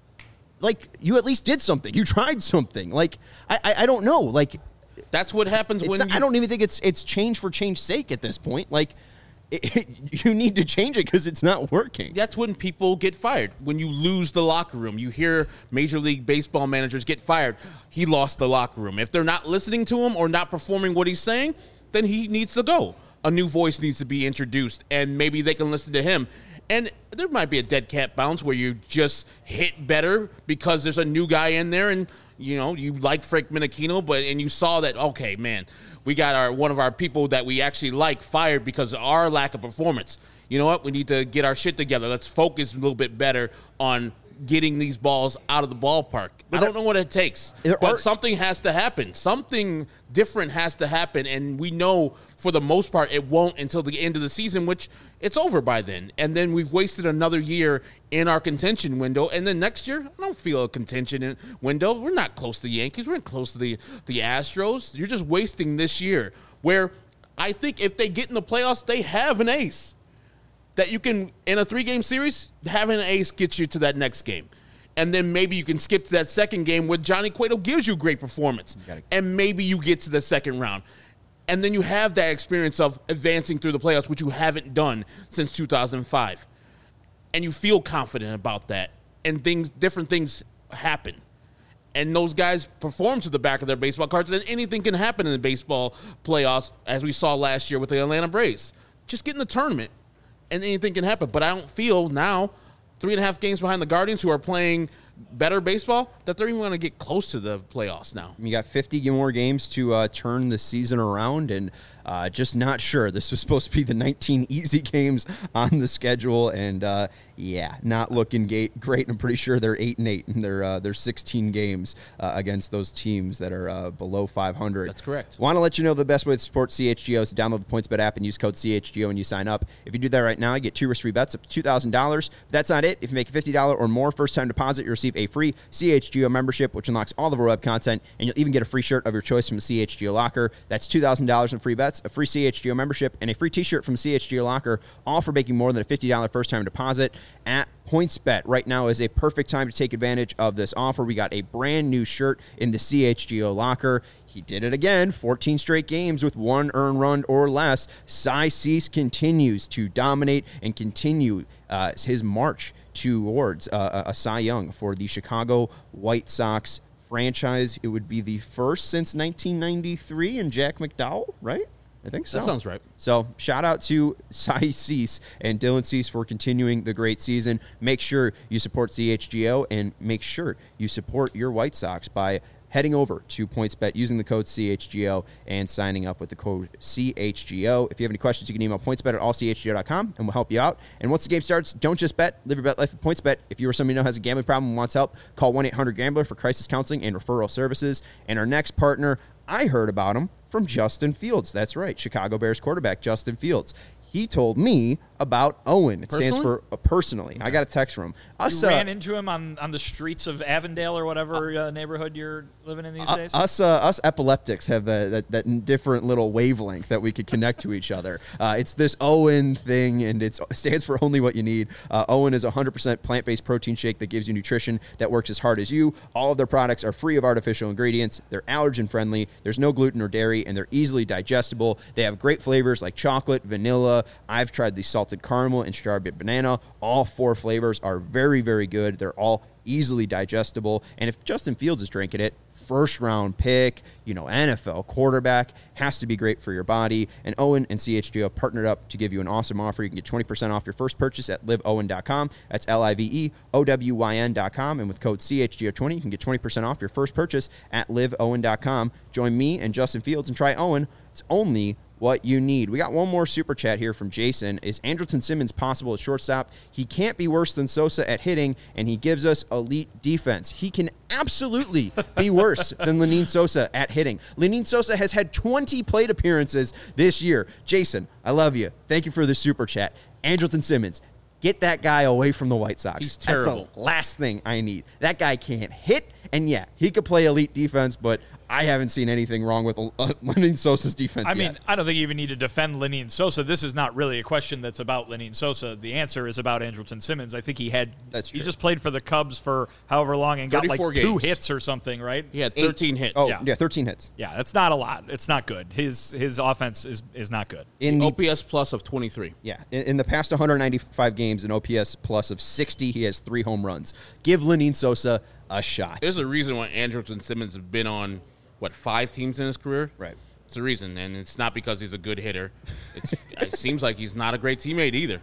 like, you at least did something. You tried something. Like, I I, I don't know. Like, that's what happens when not, you, I don't even think it's it's change for change's sake at this point. Like, it, it, you need to change it because it's not working. That's when people get fired. When you lose the locker room, you hear Major League Baseball managers get fired. He lost the locker room. If they're not listening to him or not performing what he's saying, then he needs to go. A new voice needs to be introduced, and maybe they can listen to him. And there might be a dead cat bounce where you just hit better because there's a new guy in there, and you know you like Frank Menachino, but and you saw that, okay, man, we got our one of our people that we actually like fired because of our lack of performance. You know what? We need to get our shit together. Let's focus a little bit better on getting these balls out of the ballpark. I don't know what it takes, but are, something has to happen. Something different has to happen, and we know for the most part it won't until the end of the season, which it's over by then. And then we've wasted another year in our contention window, and then next year, I don't feel a contention in window. We're not close to the Yankees. We're not close to the, the Astros. You're just wasting this year, where I think if they get in the playoffs, they have an ace. That you can, in a three-game series, having an ace gets you to that next game. And then maybe you can skip to that second game where Johnny Cueto gives you great performance. Gotta, and maybe you get to the second round. And then you have that experience of advancing through the playoffs, which you haven't done since two thousand five. And you feel confident about that. And things, different things happen. And those guys perform to the back of their baseball cards. And anything can happen in the baseball playoffs, as we saw last year with the Atlanta Braves. Just get in the tournament. And anything can happen. But I don't feel now, three and a half games behind the Guardians, who are playing better baseball, that they're even going to get close to the playoffs now. You got fifty more games to uh, turn the season around, and uh, just not sure. This was supposed to be the nineteen easy games on the schedule, and uh, yeah, not looking great. Great. I'm pretty sure they're eight and eight, and they're uh, they're sixteen games uh, against those teams that are uh, below five hundred. That's correct. Want to let you know the best way to support C H G O is to download the PointsBet app and use code C H G O when you sign up. If you do that right now, you get two risk-free bets up to two thousand dollars. But that's not it. If you make a fifty dollars or more first-time deposit, you receive a free C H G O membership, which unlocks all of our web content, and you'll even get a free shirt of your choice from the C H G O Locker. That's two thousand dollars in free bets, a free C H G O membership, and a free t-shirt from C H G O Locker, all for making more than a fifty dollars first-time deposit at PointsBet. Right now is a perfect time to take advantage of this offer. We got a brand new shirt in the C H G O Locker. He did it again, fourteen straight games with one earned run or less. Cy Cease continues to dominate and continue uh, his march towards uh, a Cy Young for the Chicago White Sox franchise. It would be the first since nineteen ninety-three and Jack McDowell, right? I think so. That sounds right. So shout out to Cy Cease and Dylan Cease for continuing the great season. Make sure you support C H G O, and make sure you support your White Sox by heading over to PointsBet using the code C H G O and signing up with the code C H G O. If you have any questions, you can email pointsbet at all c h g o dot com, and we'll help you out. And once the game starts, don't just bet. Live your bet life with PointsBet. If you or somebody you know has a gambling problem and wants help, call one eight hundred gambler for crisis counseling and referral services. And our next partner, I heard about him from Justin Fields. That's right, Chicago Bears quarterback Justin Fields. He told me about Owen. It personally? stands for uh, personally. Okay. I got a text from him. Us, you uh, ran into him on, on the streets of Avondale or whatever uh, neighborhood you're living in these uh, days? Us uh, us epileptics have uh, that, that different little wavelength that we could connect to each other. Uh, it's this Owen thing, and it's, it stands for only what you need. Uh, Owen is a one hundred percent plant-based protein shake that gives you nutrition that works as hard as you. All of their products are free of artificial ingredients. They're allergen-friendly. There's no gluten or dairy, and they're easily digestible. They have great flavors like chocolate, vanilla. I've tried the salted caramel and strawberry banana. All four flavors are very, very good. They're all easily digestible. And if Justin Fields is drinking it, first round pick, you know, N F L quarterback, has to be great for your body. And Owen and C H G O have partnered up to give you an awesome offer. You can get twenty percent off your first purchase at live owen dot com. That's L I V E O W Y N dot com. And with code C H G O twenty, you can get twenty percent off your first purchase at live owen dot com. Join me and Justin Fields and try Owen. It's only what you need. We got one more super chat here from Jason. Is Andrelton Simmons possible at shortstop? He can't be worse than Sosa at hitting, and he gives us elite defense. He can absolutely be worse than Lenyn Sosa at hitting. Lenyn Sosa has had twenty plate appearances this year. Jason, I love you. Thank you for the super chat. Andrelton Simmons, get that guy away from the White Sox. He's terrible. That's the last thing I need. That guy can't hit, and yeah, he could play elite defense, but I haven't seen anything wrong with uh, Lenyn Sosa's defense I yet. mean, I don't think you even need to defend Lenyn Sosa. This is not really a question that's about Lenyn Sosa. The answer is about Andrelton Simmons. I think he had That's true. he just played for the Cubs for however long and got like thirty-four two games. hits or something, right? He had thirteen Eight, hits. Oh, Yeah. yeah. thirteen hits. Yeah, that's not a lot. It's not good. His his offense is is not good. In the O P S plus of twenty-three. Yeah, in, in the past one hundred ninety-five games, an O P S plus of sixty, he has three home runs. Give Lenyn Sosa a shot. There's a reason why Andrelton Simmons has been on, what, five teams in his career? Right. It's a reason, and it's not because he's a good hitter. It's, it seems like he's not a great teammate either.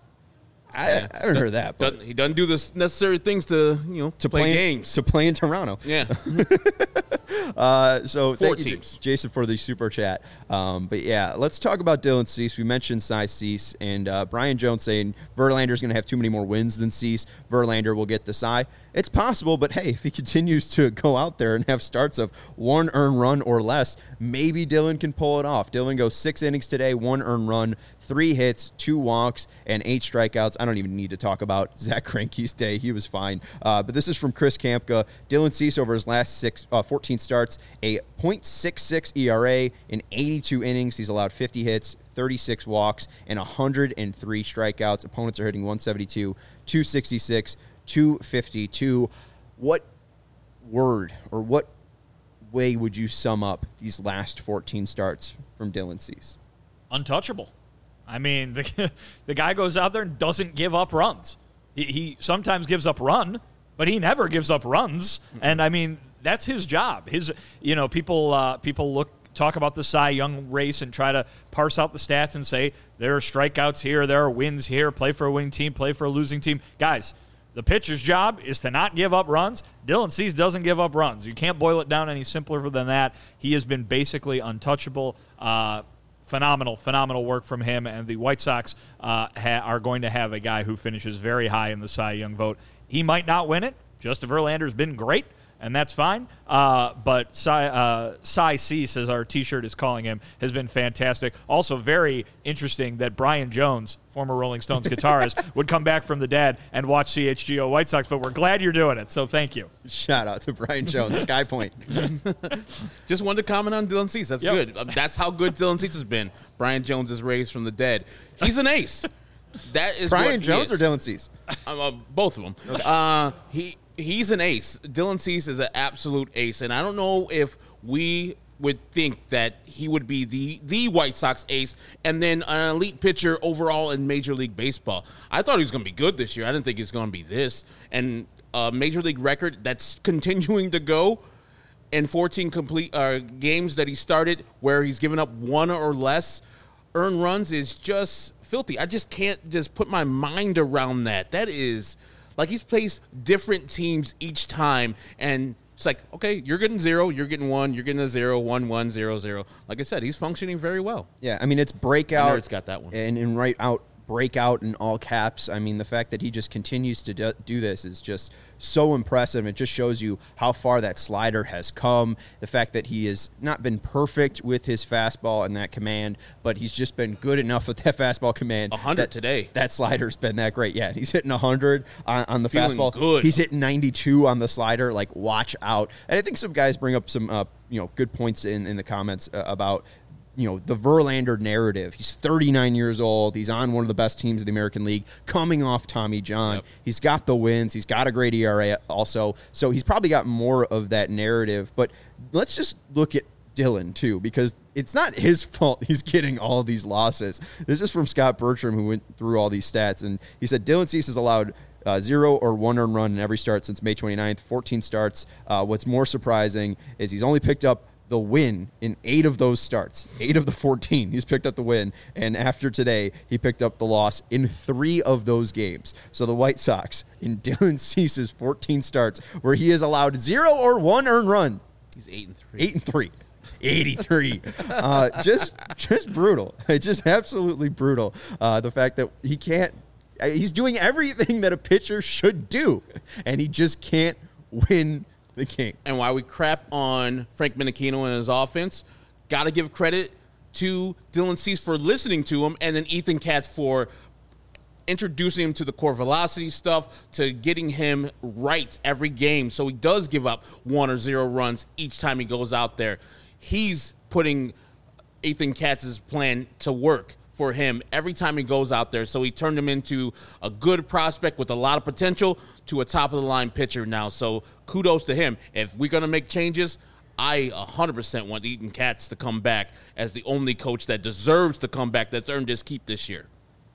I, I haven't heard that. But Doesn't, he doesn't do the necessary things to, you know, to play, play in- games. to play in Toronto. yeah. Uh, so Four thank you, teams. Jason, for the super chat. Um, but yeah, let's talk about Dylan Cease. We mentioned Cy Cease and uh, Brian Jones saying Verlander's going to have too many more wins than Cease. Verlander will get the Cy. It's possible, but hey, if he continues to go out there and have starts of one earned run or less, maybe Dylan can pull it off. Dylan goes six innings today, one earned run, three hits, two walks, and eight strikeouts. I don't even need to talk about Zach Greinke's day. He was fine. Uh, but this is from Chris Kampka. Dylan Cease over his last six, uh, fourteen starts, a point six six E R A in eighty-two innings. He's allowed fifty hits, thirty-six walks, and one hundred three strikeouts. Opponents are hitting one seventy-two, two sixty-six, two fifty-two. What word or what way would you sum up these last fourteen starts from Dylan Cease? Untouchable. I mean, the, the guy goes out there and doesn't give up runs. He, he sometimes gives up run, but he never gives up runs. And I mean, that's his job. His, you know, people uh, people look talk about the Cy Young race and try to parse out the stats and say there are strikeouts here, there are wins here. Play for a winning team, play for a losing team, guys. The pitcher's job is to not give up runs. Dylan Cease doesn't give up runs. You can't boil it down any simpler than that. He has been basically untouchable. Uh, Phenomenal, phenomenal work from him, and the White Sox uh, ha- are going to have a guy who finishes very high in the Cy Young vote. He might not win it. Justin Verlander's been great, and that's fine. Uh, but Cy, uh, Cy Cease, as our T-shirt is calling him, has been fantastic. Also very interesting that Brian Jones, former Rolling Stones guitarist, would come back from the dead and watch C H G O White Sox, but we're glad you're doing it, so thank you. Shout out to Brian Jones, Sky Point. Just wanted to comment on Dylan Cease. That's Yep. good. Um, that's how good Dylan Cease has been. Brian Jones is raised from the dead. He's an ace. That is Brian what he Jones is. or Dylan Cease? Uh, uh, both of them. Uh, he he's an ace. Dylan Cease is an absolute ace, and I don't know if we would think that he would be the the White Sox ace and then an elite pitcher overall in Major League Baseball. I thought he was going to be good this year. I didn't think he was going to be this. And a Major League record that's continuing to go in fourteen complete uh, games that he started where he's given up one or less earned runs is just filthy. I just can't just put my mind around that. That is like he's placed different teams each time, and it's like, okay, you're getting zero, you're getting one, you're getting a zero, one, one, zero, zero. Like I said, he's functioning very well. Yeah, I mean, it's breakout. Nerd's got that one. And, and right out, breakout in all caps. I mean, the fact that he just continues to do, do this is just so impressive. It just shows you how far that slider has come. The fact that he has not been perfect with his fastball and that command, but he's just been good enough with that fastball command. one hundred that, today. That slider's been that great. Yeah, he's hitting one hundred on, on the Feeling fastball. good. He's hitting ninety-two on the slider. Like, watch out. And I think some guys bring up some uh, you know, good points in, in the comments uh, about you know, the Verlander narrative. He's thirty-nine years old. He's on one of the best teams in the American League, coming off Tommy John. Yep. He's got the wins. He's got a great E R A also. So he's probably got more of that narrative. But let's just look at Dylan, too, because it's not his fault he's getting all these losses. This is from Scott Bertram, who went through all these stats. And he said Dylan Cease has allowed Uh, zero or one earned run in every start since May twenty-ninth, fourteen starts. Uh, what's more surprising is he's only picked up the win in eight of those starts. Eight of the fourteen, he's picked up the win. And after today, he picked up the loss in three of those games. So the White Sox, in Dylan Cease's fourteen starts, where he has allowed zero or one earned run. He's eight and three. Eight and three. eighty-three. Uh, just, just brutal. It's just absolutely brutal. Uh, the fact that he can't, he's doing everything that a pitcher should do, and he just can't win the game. And while we crap on Frank Menechino and his offense, got to give credit to Dylan Cease for listening to him, and then Ethan Katz for introducing him to the core velocity stuff, to getting him right every game so he does give up one or zero runs each time he goes out there. He's putting Ethan Katz's plan to work for him every time he goes out there. So he turned him into a good prospect with a lot of potential to a top-of-the-line pitcher now. So kudos to him. If we're going to make changes, I one hundred percent want Ethan Katz to come back as the only coach that deserves to come back, that's earned his keep this year.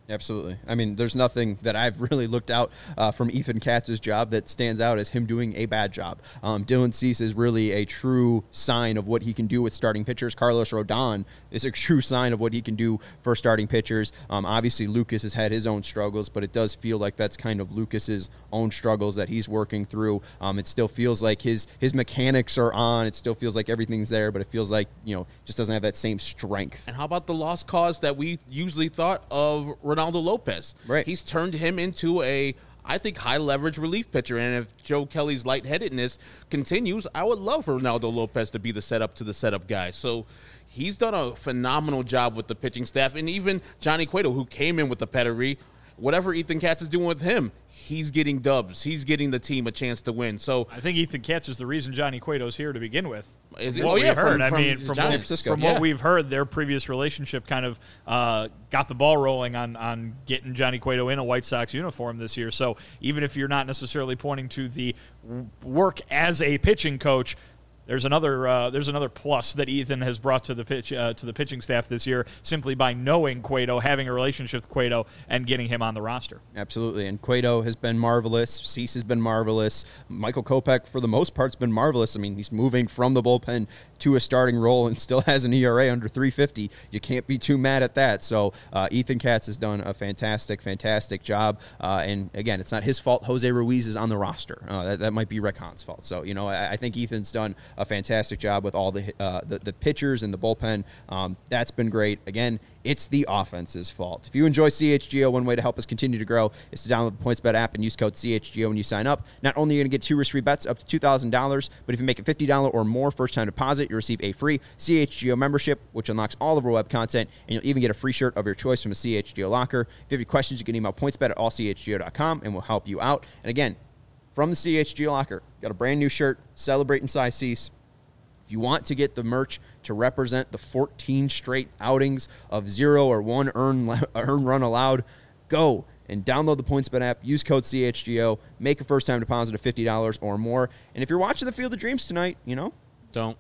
Absolutely. I mean, there's nothing that I've really looked out uh, from Ethan Katz's job that stands out as him doing a bad job. Um, Dylan Cease is really a true sign of what he can do with starting pitchers. Carlos Rodon is a true sign of what he can do for starting pitchers. Um, obviously, Lucas has had his own struggles, but it does feel like that's kind of Lucas's own struggles that he's working through. Um, it still feels like his his mechanics are on. It still feels like everything's there, but it feels like, you know, just doesn't have that same strength. And how about the lost cause that we usually thought of Ronaldo Lopez? Right. He's turned him into a, I think, high-leverage relief pitcher. And if Joe Kelly's lightheadedness continues, I would love for Ronaldo Lopez to be the setup to the setup guy. So he's done a phenomenal job with the pitching staff. And even Johnny Cueto, who came in with the pedigree, whatever Ethan Katz is doing with him, he's getting dubs. He's getting the team a chance to win. So I think Ethan Katz is the reason Johnny Cueto's here to begin with. Is From it? what Oh, we've yeah, heard. from- I from mean, from, San what, Francisco, from yeah. what we've heard, their previous relationship kind of uh, got the ball rolling on, on getting Johnny Cueto in a White Sox uniform this year. So even if you're not necessarily pointing to the w- work as a pitching coach, There's another uh, there's another plus that Ethan has brought to the pitch uh, to the pitching staff this year, simply by knowing Cueto, having a relationship with Cueto, and getting him on the roster. Absolutely, and Cueto has been marvelous. Cease has been marvelous. Michael Kopech, for the most part, has been marvelous. I mean, he's moving from the bullpen to a starting role and still has an E R A under three fifty. You can't be too mad at that. So uh, Ethan Katz has done a fantastic, fantastic job. Uh, and again, it's not his fault. Jose Ruiz is on the roster. Uh, that, that might be Rick Hahn's fault. So, you know, I, I think Ethan's done a fantastic job with all the uh, the, the pitchers and the bullpen. Um, that's been great. Again, it's the offense's fault. If you enjoy C H G O, one way to help us continue to grow is to download the PointsBet app and use code C H G O when you sign up. Not only are you going to get two risk-free bets up to two thousand dollars, but if you make a fifty dollars or more first-time deposit, you'll receive a free C H G O membership, which unlocks all of our web content, and you'll even get a free shirt of your choice from a C H G O locker. If you have any questions, you can email pointsbet at all c h g o dot com, and we'll help you out. And again, from the C H G O locker, got a brand new shirt, Celebrating Cy Cease. If you want to get the merch to represent the fourteen straight outings of zero or one earn, earn run allowed, go and download the PointsBet app, use code C H G O, make a first-time deposit of fifty dollars or more. And if you're watching the Field of Dreams tonight, you know, Don't.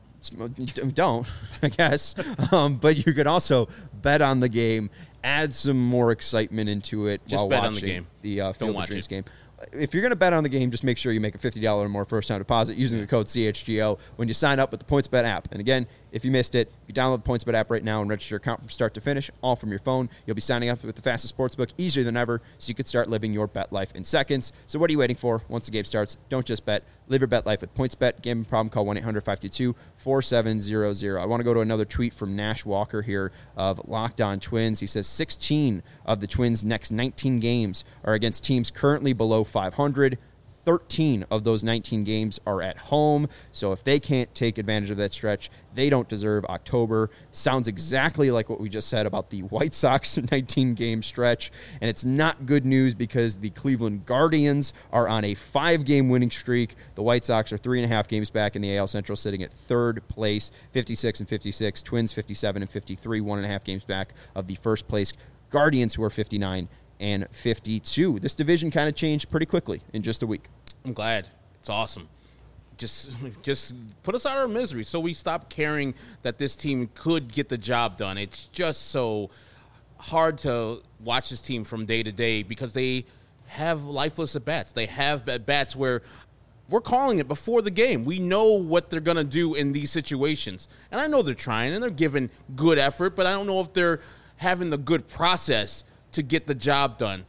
don't, I guess. Um, but you could also bet on the game, add some more excitement into it Just while bet watching on the game. the uh, Field of watch Dreams it. game. If you're going to bet on the game, just make sure you make a fifty dollars or more first-time deposit using the code C H G O when you sign up with the PointsBet app. And again, if you missed it, you download the PointsBet app right now and register your account from start to finish, all from your phone. You'll be signing up with the fastest sportsbook easier than ever, so you could start living your bet life in seconds. So what are you waiting for? Once the game starts, don't just bet. Live your bet life with PointsBet. Gambling problem, call one eight hundred five two two four seven zero zero. I want to go to another tweet from Nash Walker here of Locked On Twins. He says sixteen of the Twins' next nineteen games are against teams currently below five hundred. thirteen of those nineteen games are at home. So if they can't take advantage of that stretch, they don't deserve October. Sounds exactly like what we just said about the White Sox nineteen-game stretch. And it's not good news because the Cleveland Guardians are on a five-game winning streak. The White Sox are three and a half games back in the A L Central, sitting at third place, fifty-six and fifty-six. Twins fifty-seven and fifty-three, one and a half games back of the first place Guardians, who are fifty-nine and fifty-two. This division kind of changed pretty quickly in just a week. I'm glad. It's awesome. Just just put us out of our misery so we stop caring that this team could get the job done. It's just so hard to watch this team from day to day because they have lifeless at-bats. They have at-bats where we're calling it before the game. We know what they're going to do in these situations. And I know they're trying and they're giving good effort, but I don't know if they're having the good process to get the job done.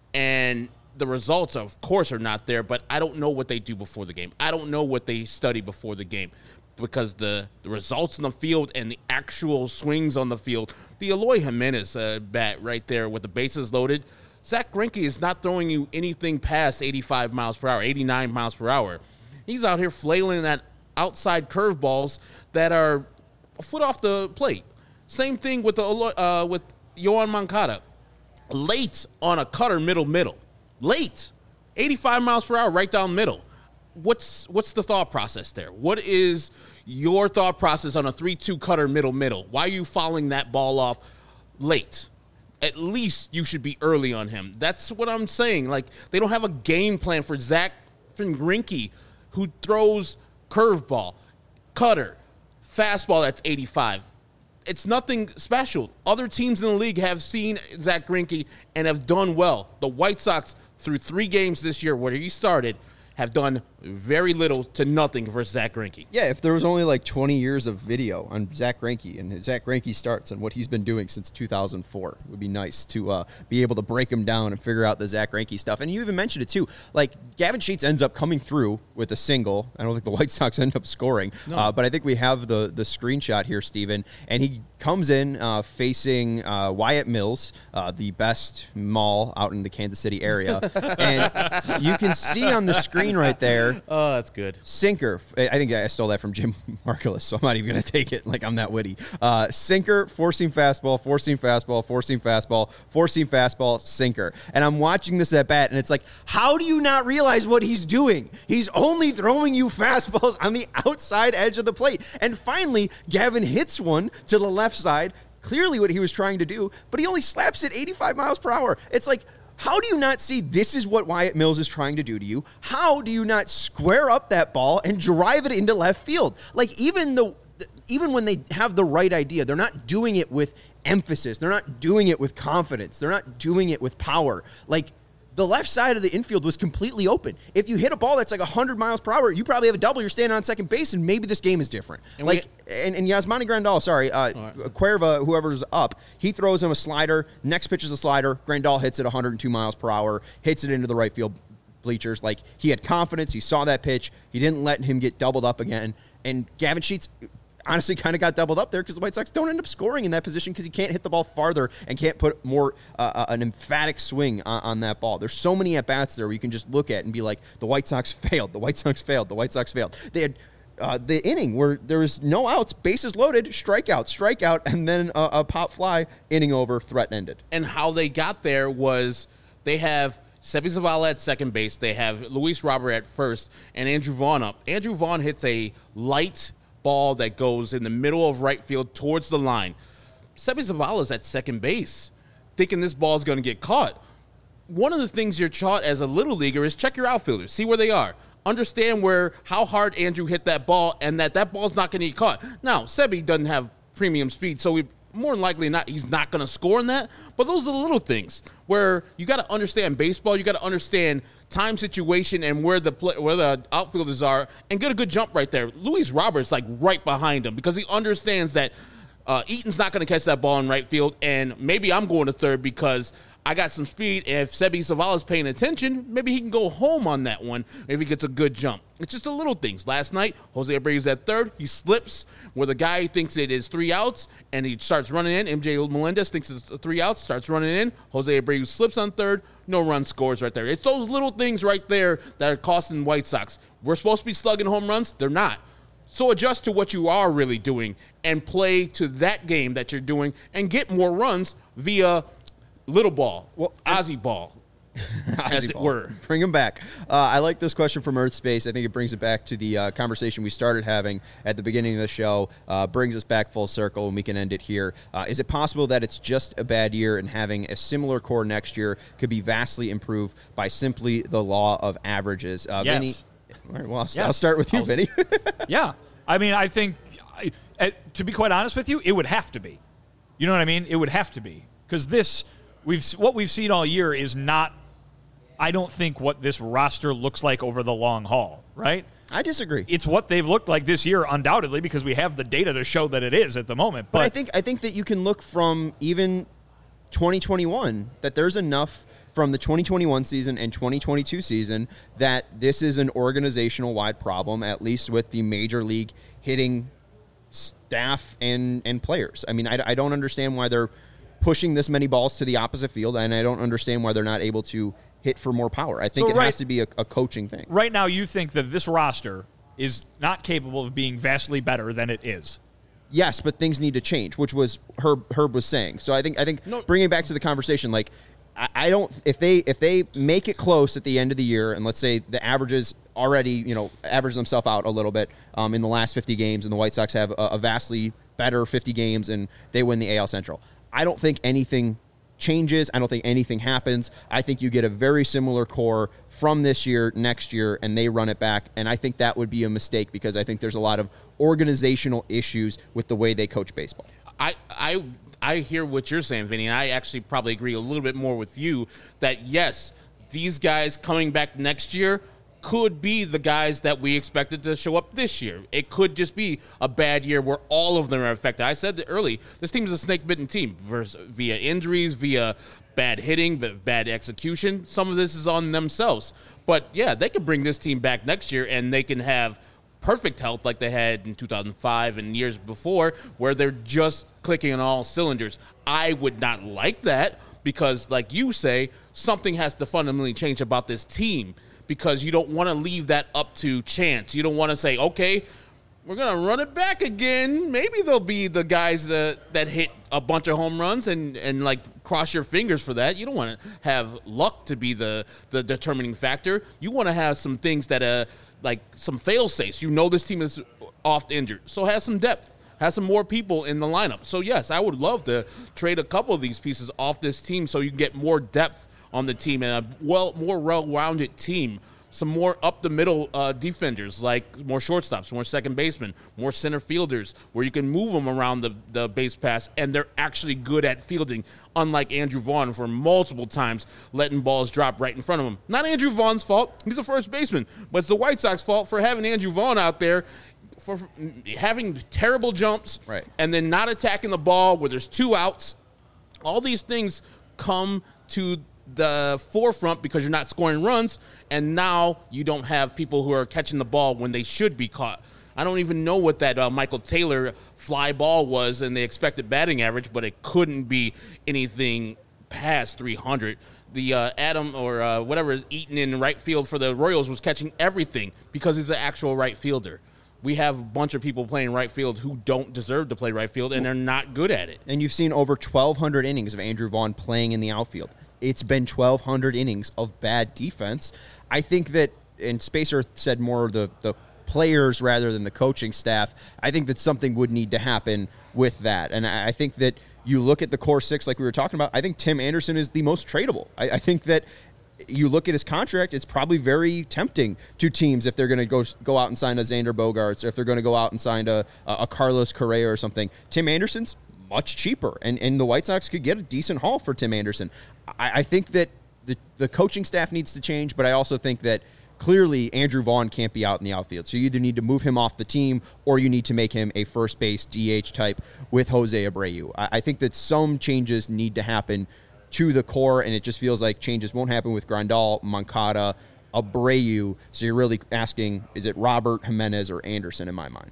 And the results, of course, are not there, but I don't know what they do before the game. I don't know what they study before the game because the, the results in the field and the actual swings on the field, the Eloy Jimenez uh, bat right there with the bases loaded, Zach Greinke is not throwing you anything past eighty-five miles per hour, eighty-nine miles per hour. He's out here flailing that outside curveballs that are a foot off the plate. Same thing with the uh, with Yoan Moncada. Late on a cutter middle middle. Late. eighty-five miles per hour right down middle. What's what's the thought process there? What is your thought process on a three two cutter middle middle? Why are you fouling that ball off late? At least you should be early on him. That's what I'm saying. Like, they don't have a game plan for Zach Greinke, who throws curveball, cutter, fastball that's eighty-five. it's nothing special. Other teams in the league have seen Zach Greinke and have done well. The White Sox, through three games this year where he started, have done very little to nothing for Zach Greinke. Yeah, if there was only like twenty years of video on Zach Greinke and Zach Greinke starts and what he's been doing since two thousand four, it would be nice to uh, be able to break him down and figure out the Zach Greinke stuff. And you even mentioned it too. Like, Gavin Sheets ends up coming through with a single. I don't think the White Sox end up scoring, no. uh, but I think we have the the screenshot here, Steven. And he comes in uh, facing uh, Wyatt Mills, uh, the best mall out in the Kansas City area. And you can see on the screen right there. Oh, that's good. Sinker. I think I stole that from Jim Margulis, so I'm not even going to take it like I'm that witty. Uh, sinker, four-seam fastball, four-seam fastball, four-seam fastball, four-seam fastball, sinker. And I'm watching this at bat, and it's like, how do you not realize what he's doing? He's only throwing you fastballs on the outside edge of the plate. And finally, Gavin hits one to the left side, clearly what he was trying to do, but he only slaps it eighty-five miles per hour. It's like, how do you not see this is what Wyatt Mills is trying to do to you? How do you not square up that ball and drive it into left field? Like, even the even when they have the right idea, they're not doing it with emphasis. They're not doing it with confidence. They're not doing it with power. Like, the left side of the infield was completely open. If you hit a ball that's like one hundred miles per hour, you probably have a double. You're standing on second base, and maybe this game is different. And like, we, and, and Yasmani Grandal, sorry, uh, right. Cuerva, whoever's up, he throws him a slider. Next pitch is a slider. Grandal hits it one hundred two miles per hour, hits it into the right field bleachers. Like, he had confidence. He saw that pitch. He didn't let him get doubled up again. And Gavin Sheets honestly kind of got doubled up there because the White Sox don't end up scoring in that position because he can't hit the ball farther and can't put more uh, an emphatic swing on, on that ball. There's so many at-bats there where you can just look at and be like, the White Sox failed, the White Sox failed, the White Sox failed. They had uh, the inning where there was no outs, bases loaded, strikeout, strikeout, and then a, a pop fly, inning over, threat ended. And how they got there was they have Seby Zavala at second base, they have Luis Robert at first, and Andrew Vaughn up. Andrew Vaughn hits a light ball that goes in the middle of right field towards the line. Seby Zavala's at second base, thinking this ball is going to get caught. One of the things you're taught as a little leaguer is check your outfielders, see where they are. Understand where how hard Andrew hit that ball and that that ball's not going to get caught. Now, Seby doesn't have premium speed, so we more than likely not he's not going to score in that. But those are the little things where you got to understand baseball. You got to understand time, situation, and where the play, where the outfielders are, and get a good jump right there. Luis Roberts like right behind him because he understands that uh, Eaton's not going to catch that ball in right field, and maybe I'm going to third because I got some speed. If Seby Zavala's paying attention, maybe he can go home on that one if he gets a good jump. It's just the little things. Last night, Jose Abreu's at third. He slips where the guy thinks it is three outs, and he starts running in. M J Melendez thinks it's three outs, starts running in. Jose Abreu slips on third. No run scores right there. It's those little things right there that are costing White Sox. We're supposed to be slugging home runs. They're not. So adjust to what you are really doing and play to that game that you're doing and get more runs via little ball, well, Ozzy ball, as it were. Bring him back. Uh, I like this question from Earth Space. I think it brings it back to the uh, conversation we started having at the beginning of the show. Uh, brings us back full circle, and we can end it here. Uh, is it possible that it's just a bad year and having a similar core next year could be vastly improved by simply the law of averages? Uh, yes. Vinny, all right, well, I'll, yes. I'll start with you, I'll, Vinny. Yeah. I mean, I think, I, uh, to be quite honest with you, it would have to be. You know what I mean? It would have to be. Because this... We've what we've seen all year is not, I don't think, what this roster looks like over the long haul, right? I disagree. It's what they've looked like this year, undoubtedly, because we have the data to show that it is at the moment. But, but I think I think that you can look from even twenty twenty-one that there's enough from the twenty twenty-one season and twenty twenty-two season that this is an organizational-wide problem, at least with the major league hitting staff and, and players. I mean, I, I don't understand why they're pushing this many balls to the opposite field, and I don't understand why they're not able to hit for more power. I think so it right, has to be a, a coaching thing. Right now, you think that this roster is not capable of being vastly better than it is. Yes, but things need to change, which was Herb Herb was saying. So I think I think no. bringing it back to the conversation, like I, I don't if they if they make it close at the end of the year, and let's say the averages already you know average themselves out a little bit um, in the last fifty games, and the White Sox have a, a vastly better fifty games, and they win the A L Central. I don't think anything changes. I don't think anything happens. I think you get a very similar core from this year, next year, and they run it back. And I think that would be a mistake because I think there's a lot of organizational issues with the way they coach baseball. I I I hear what you're saying, Vinny, and I actually probably agree a little bit more with you that yes, these guys coming back next year could be the guys that we expected to show up this year. It could just be a bad year where all of them are affected. I said that early, this team is a snake-bitten team versus, via injuries, via bad hitting, but bad execution. Some of this is on themselves. But, yeah, they could bring this team back next year, and they can have perfect health like they had in two thousand five and years before where they're just clicking on all cylinders. I would not like that because, like you say, something has to fundamentally change about this team, because you don't want to leave that up to chance. You don't want to say, okay, we're going to run it back again. Maybe they'll be the guys that, that hit a bunch of home runs and, and like cross your fingers for that. You don't want to have luck to be the, the determining factor. You want to have some things that, uh, like some fail-safes. You know this team is oft injured, so have some depth. Have some more people in the lineup. So, yes, I would love to trade a couple of these pieces off this team so you can get more depth on the team and a well more well-rounded team. Some more up-the-middle uh, defenders, like more shortstops, more second basemen, more center fielders, where you can move them around the, the base pass, and they're actually good at fielding, unlike Andrew Vaughn for multiple times letting balls drop right in front of him. Not Andrew Vaughn's fault. He's a first baseman. But it's the White Sox fault for having Andrew Vaughn out there for having terrible jumps right. and then not attacking the ball where there's two outs. All these things come to the forefront because you're not scoring runs, and now you don't have people who are catching the ball when they should be caught. I don't even know what that uh, Michael Taylor fly ball was and the expected batting average, but it couldn't be anything past three hundred. The uh, Adam or uh, whatever is Eaton in right field for the Royals was catching everything because he's an actual right fielder. We have a bunch of people playing right field who don't deserve to play right field, and they're not good at it. And you've seen over twelve hundred innings of Andrew Vaughn playing in the outfield. It's been twelve hundred innings of bad defense. I think that, and Spacer said more of the, the players rather than the coaching staff, I think that something would need to happen with that. And I think that you look at the core six like we were talking about, I think Tim Anderson is the most tradable. I, I think that you look at his contract, it's probably very tempting to teams if they're going to go go out and sign a Xander Bogaerts, or if they're going to go out and sign a, a Carlos Correa or something. Tim Anderson's much cheaper, and, and the White Sox could get a decent haul for Tim Anderson. I, I think that the, the coaching staff needs to change, but I also think that clearly Andrew Vaughn can't be out in the outfield. So you either need to move him off the team or you need to make him a first base D H type with Jose Abreu. I, I think that some changes need to happen to the core, and it just feels like changes won't happen with Grandal, Moncada, Abreu. So you're really asking, is it Robert, Jimenez, or Anderson in my mind?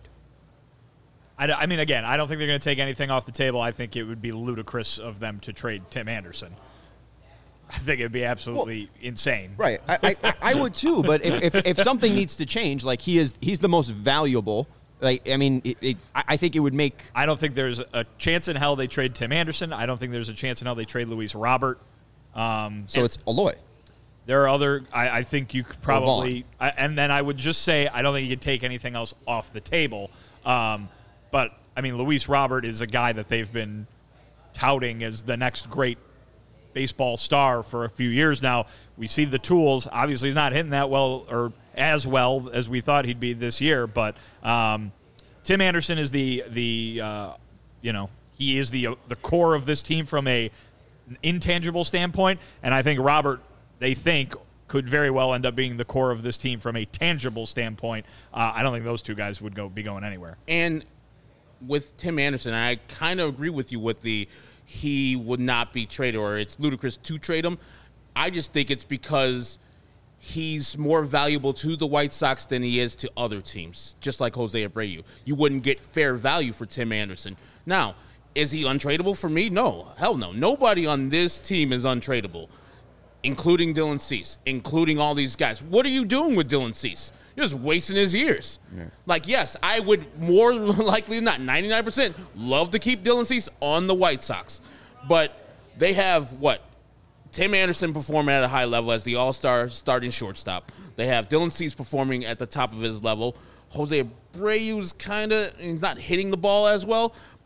I, I mean, again, I don't think they're going to take anything off the table. I think it would be ludicrous of them to trade Tim Anderson. I think it would be absolutely well, insane. Right. I, I, I would too, but if, if if something needs to change, like he is, he's the most valuable. Like, I mean, it, it, I think it would make... I don't think there's a chance in hell they trade Tim Anderson. I don't think there's a chance in hell they trade Luis Robert. Um, so it's Eloy. There are other... I, I think you could probably... I, and then I would just say I don't think you could take anything else off the table. Um, but, I mean, Luis Robert is a guy that they've been touting as the next great baseball star for a few years now. We see the tools. Obviously, he's not hitting that well or as well as we thought he'd be this year. But um, Tim Anderson is the the uh, you know he is the uh, the core of this team from a intangible standpoint, and I think Robert, they think, could very well end up being the core of this team from a tangible standpoint. Uh, I don't think those two guys would go be going anywhere. And with Tim Anderson, I kind of agree with you with the he would not be traded, or it's ludicrous to trade him. I just think it's because he's more valuable to the White Sox than he is to other teams, just like Jose Abreu. You wouldn't get fair value for Tim Anderson. Now, is he untradeable for me? No. Hell no. Nobody on this team is untradeable, including Dylan Cease, including all these guys. What are you doing with Dylan Cease? You're just wasting his years. Yeah. Like, yes, I would more likely than not, ninety-nine percent, love to keep Dylan Cease on the White Sox. But they have, what, Tim Anderson performing at a high level as the all-star starting shortstop. They have Dylan Cease performing at the top of his level. Jose Abreu's kind of, he's not hitting the ball as well, but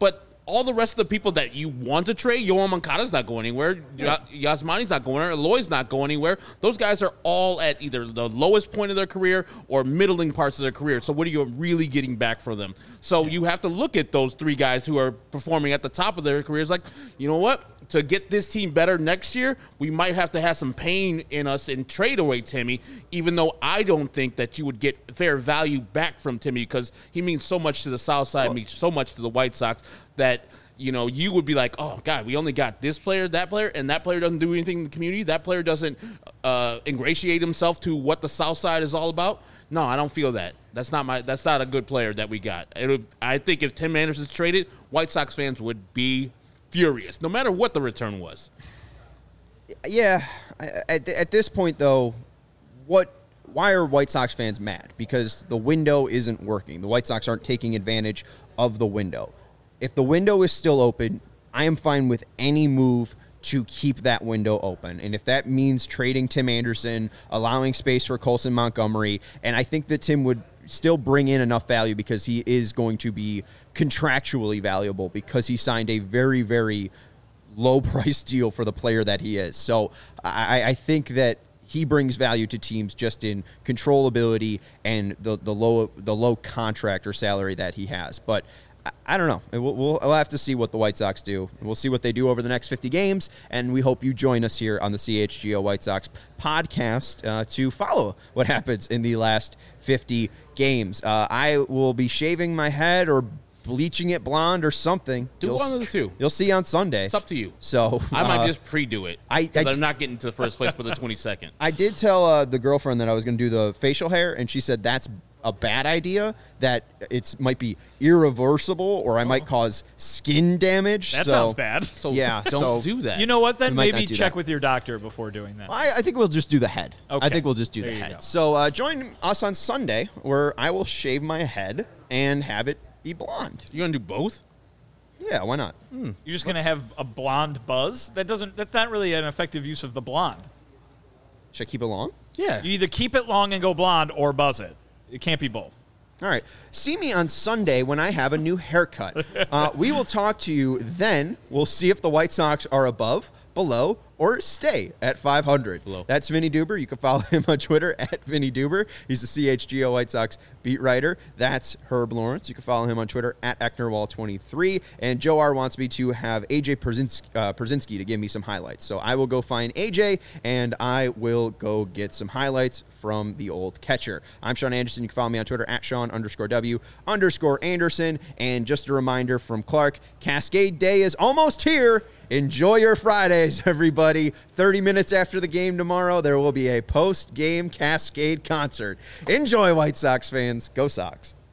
all the rest of the people that you want to trade, Yoel Moncada's not going anywhere. Yeah. Yasmani's not going anywhere. Eloy's not going anywhere. Those guys are all at either the lowest point of their career or middling parts of their career. So what are you really getting back for them? So yeah. you have to look at those three guys who are performing at the top of their careers like, you know what? To get this team better next year, we might have to have some pain in us and trade away Timmy, even though I don't think that you would get fair value back from Timmy because he means so much to the South Side, well, means so much to the White Sox that, you know, you would be like, oh, God, we only got this player, that player, and that player doesn't do anything in the community. That player doesn't uh, ingratiate himself to what the South Side is all about. No, I don't feel that. That's not my. That's not a good player that we got. It would, I think if Tim Anderson's traded, White Sox fans would be furious, no matter what the return was. Yeah, at, at this point, though, what? Why are White Sox fans mad? Because the window isn't working. The White Sox aren't taking advantage of the window. If the window is still open, I am fine with any move to keep that window open. And if that means trading Tim Anderson, allowing space for Colson Montgomery, and I think that Tim would still bring in enough value because he is going to be contractually valuable because he signed a very, very low price deal for the player that he is. So I, I think that he brings value to teams just in controllability and the, the low the low contract or salary that he has. But I, I don't know. We'll, we'll, we'll have to see what the White Sox do. We'll see what they do over the next fifty games, and we hope you join us here on the C H G O White Sox podcast uh, to follow what happens in the last fifty games. Uh, I will be shaving my head or bleaching it blonde or something. Do you'll, one of the two. You'll see on Sunday. It's up to you. So I might uh, just pre-do it. I, I, I I'm not getting to the first place for the twenty-second. I did tell uh, the girlfriend that I was going to do the facial hair, and she said that's a bad idea, that it might be irreversible or I might cause skin damage. That so, sounds bad. So yeah, don't so, do that. You know what, then? We might Maybe not do check that. with your doctor before doing that. I, I think we'll just do the head. Okay. I think we'll just do There the you head. go. So uh, join us on Sunday where I will shave my head and have it be blonde. You going to do both? Yeah, why not? You're just going to have a blonde buzz? That doesn't. That's not really an effective use of the blonde. Should I keep it long? Yeah. You either keep it long and go blonde or buzz it. It can't be both. All right. See me on Sunday when I have a new haircut. Uh, we will talk to you then. We'll see if the White Sox are above, below, or stay at five hundred. Below. That's Vinny Duber. You can follow him on Twitter at Vinny Duber. He's the C H G O White Sox beat writer. That's Herb Lawrence. You can follow him on Twitter at Ecknerwall twenty-three. And Joe R. wants me to have A J Przynski, uh, Przynski to give me some highlights. So I will go find A J, and I will go get some highlights from the old catcher. I'm Sean Anderson. You can follow me on Twitter at Sean underscore W underscore Anderson. And just a reminder from Clark, Cascade Day is almost here. Enjoy your Fridays, everybody. thirty minutes after the game tomorrow, there will be a post-game Cascade concert. Enjoy, White Sox fans. Go Sox.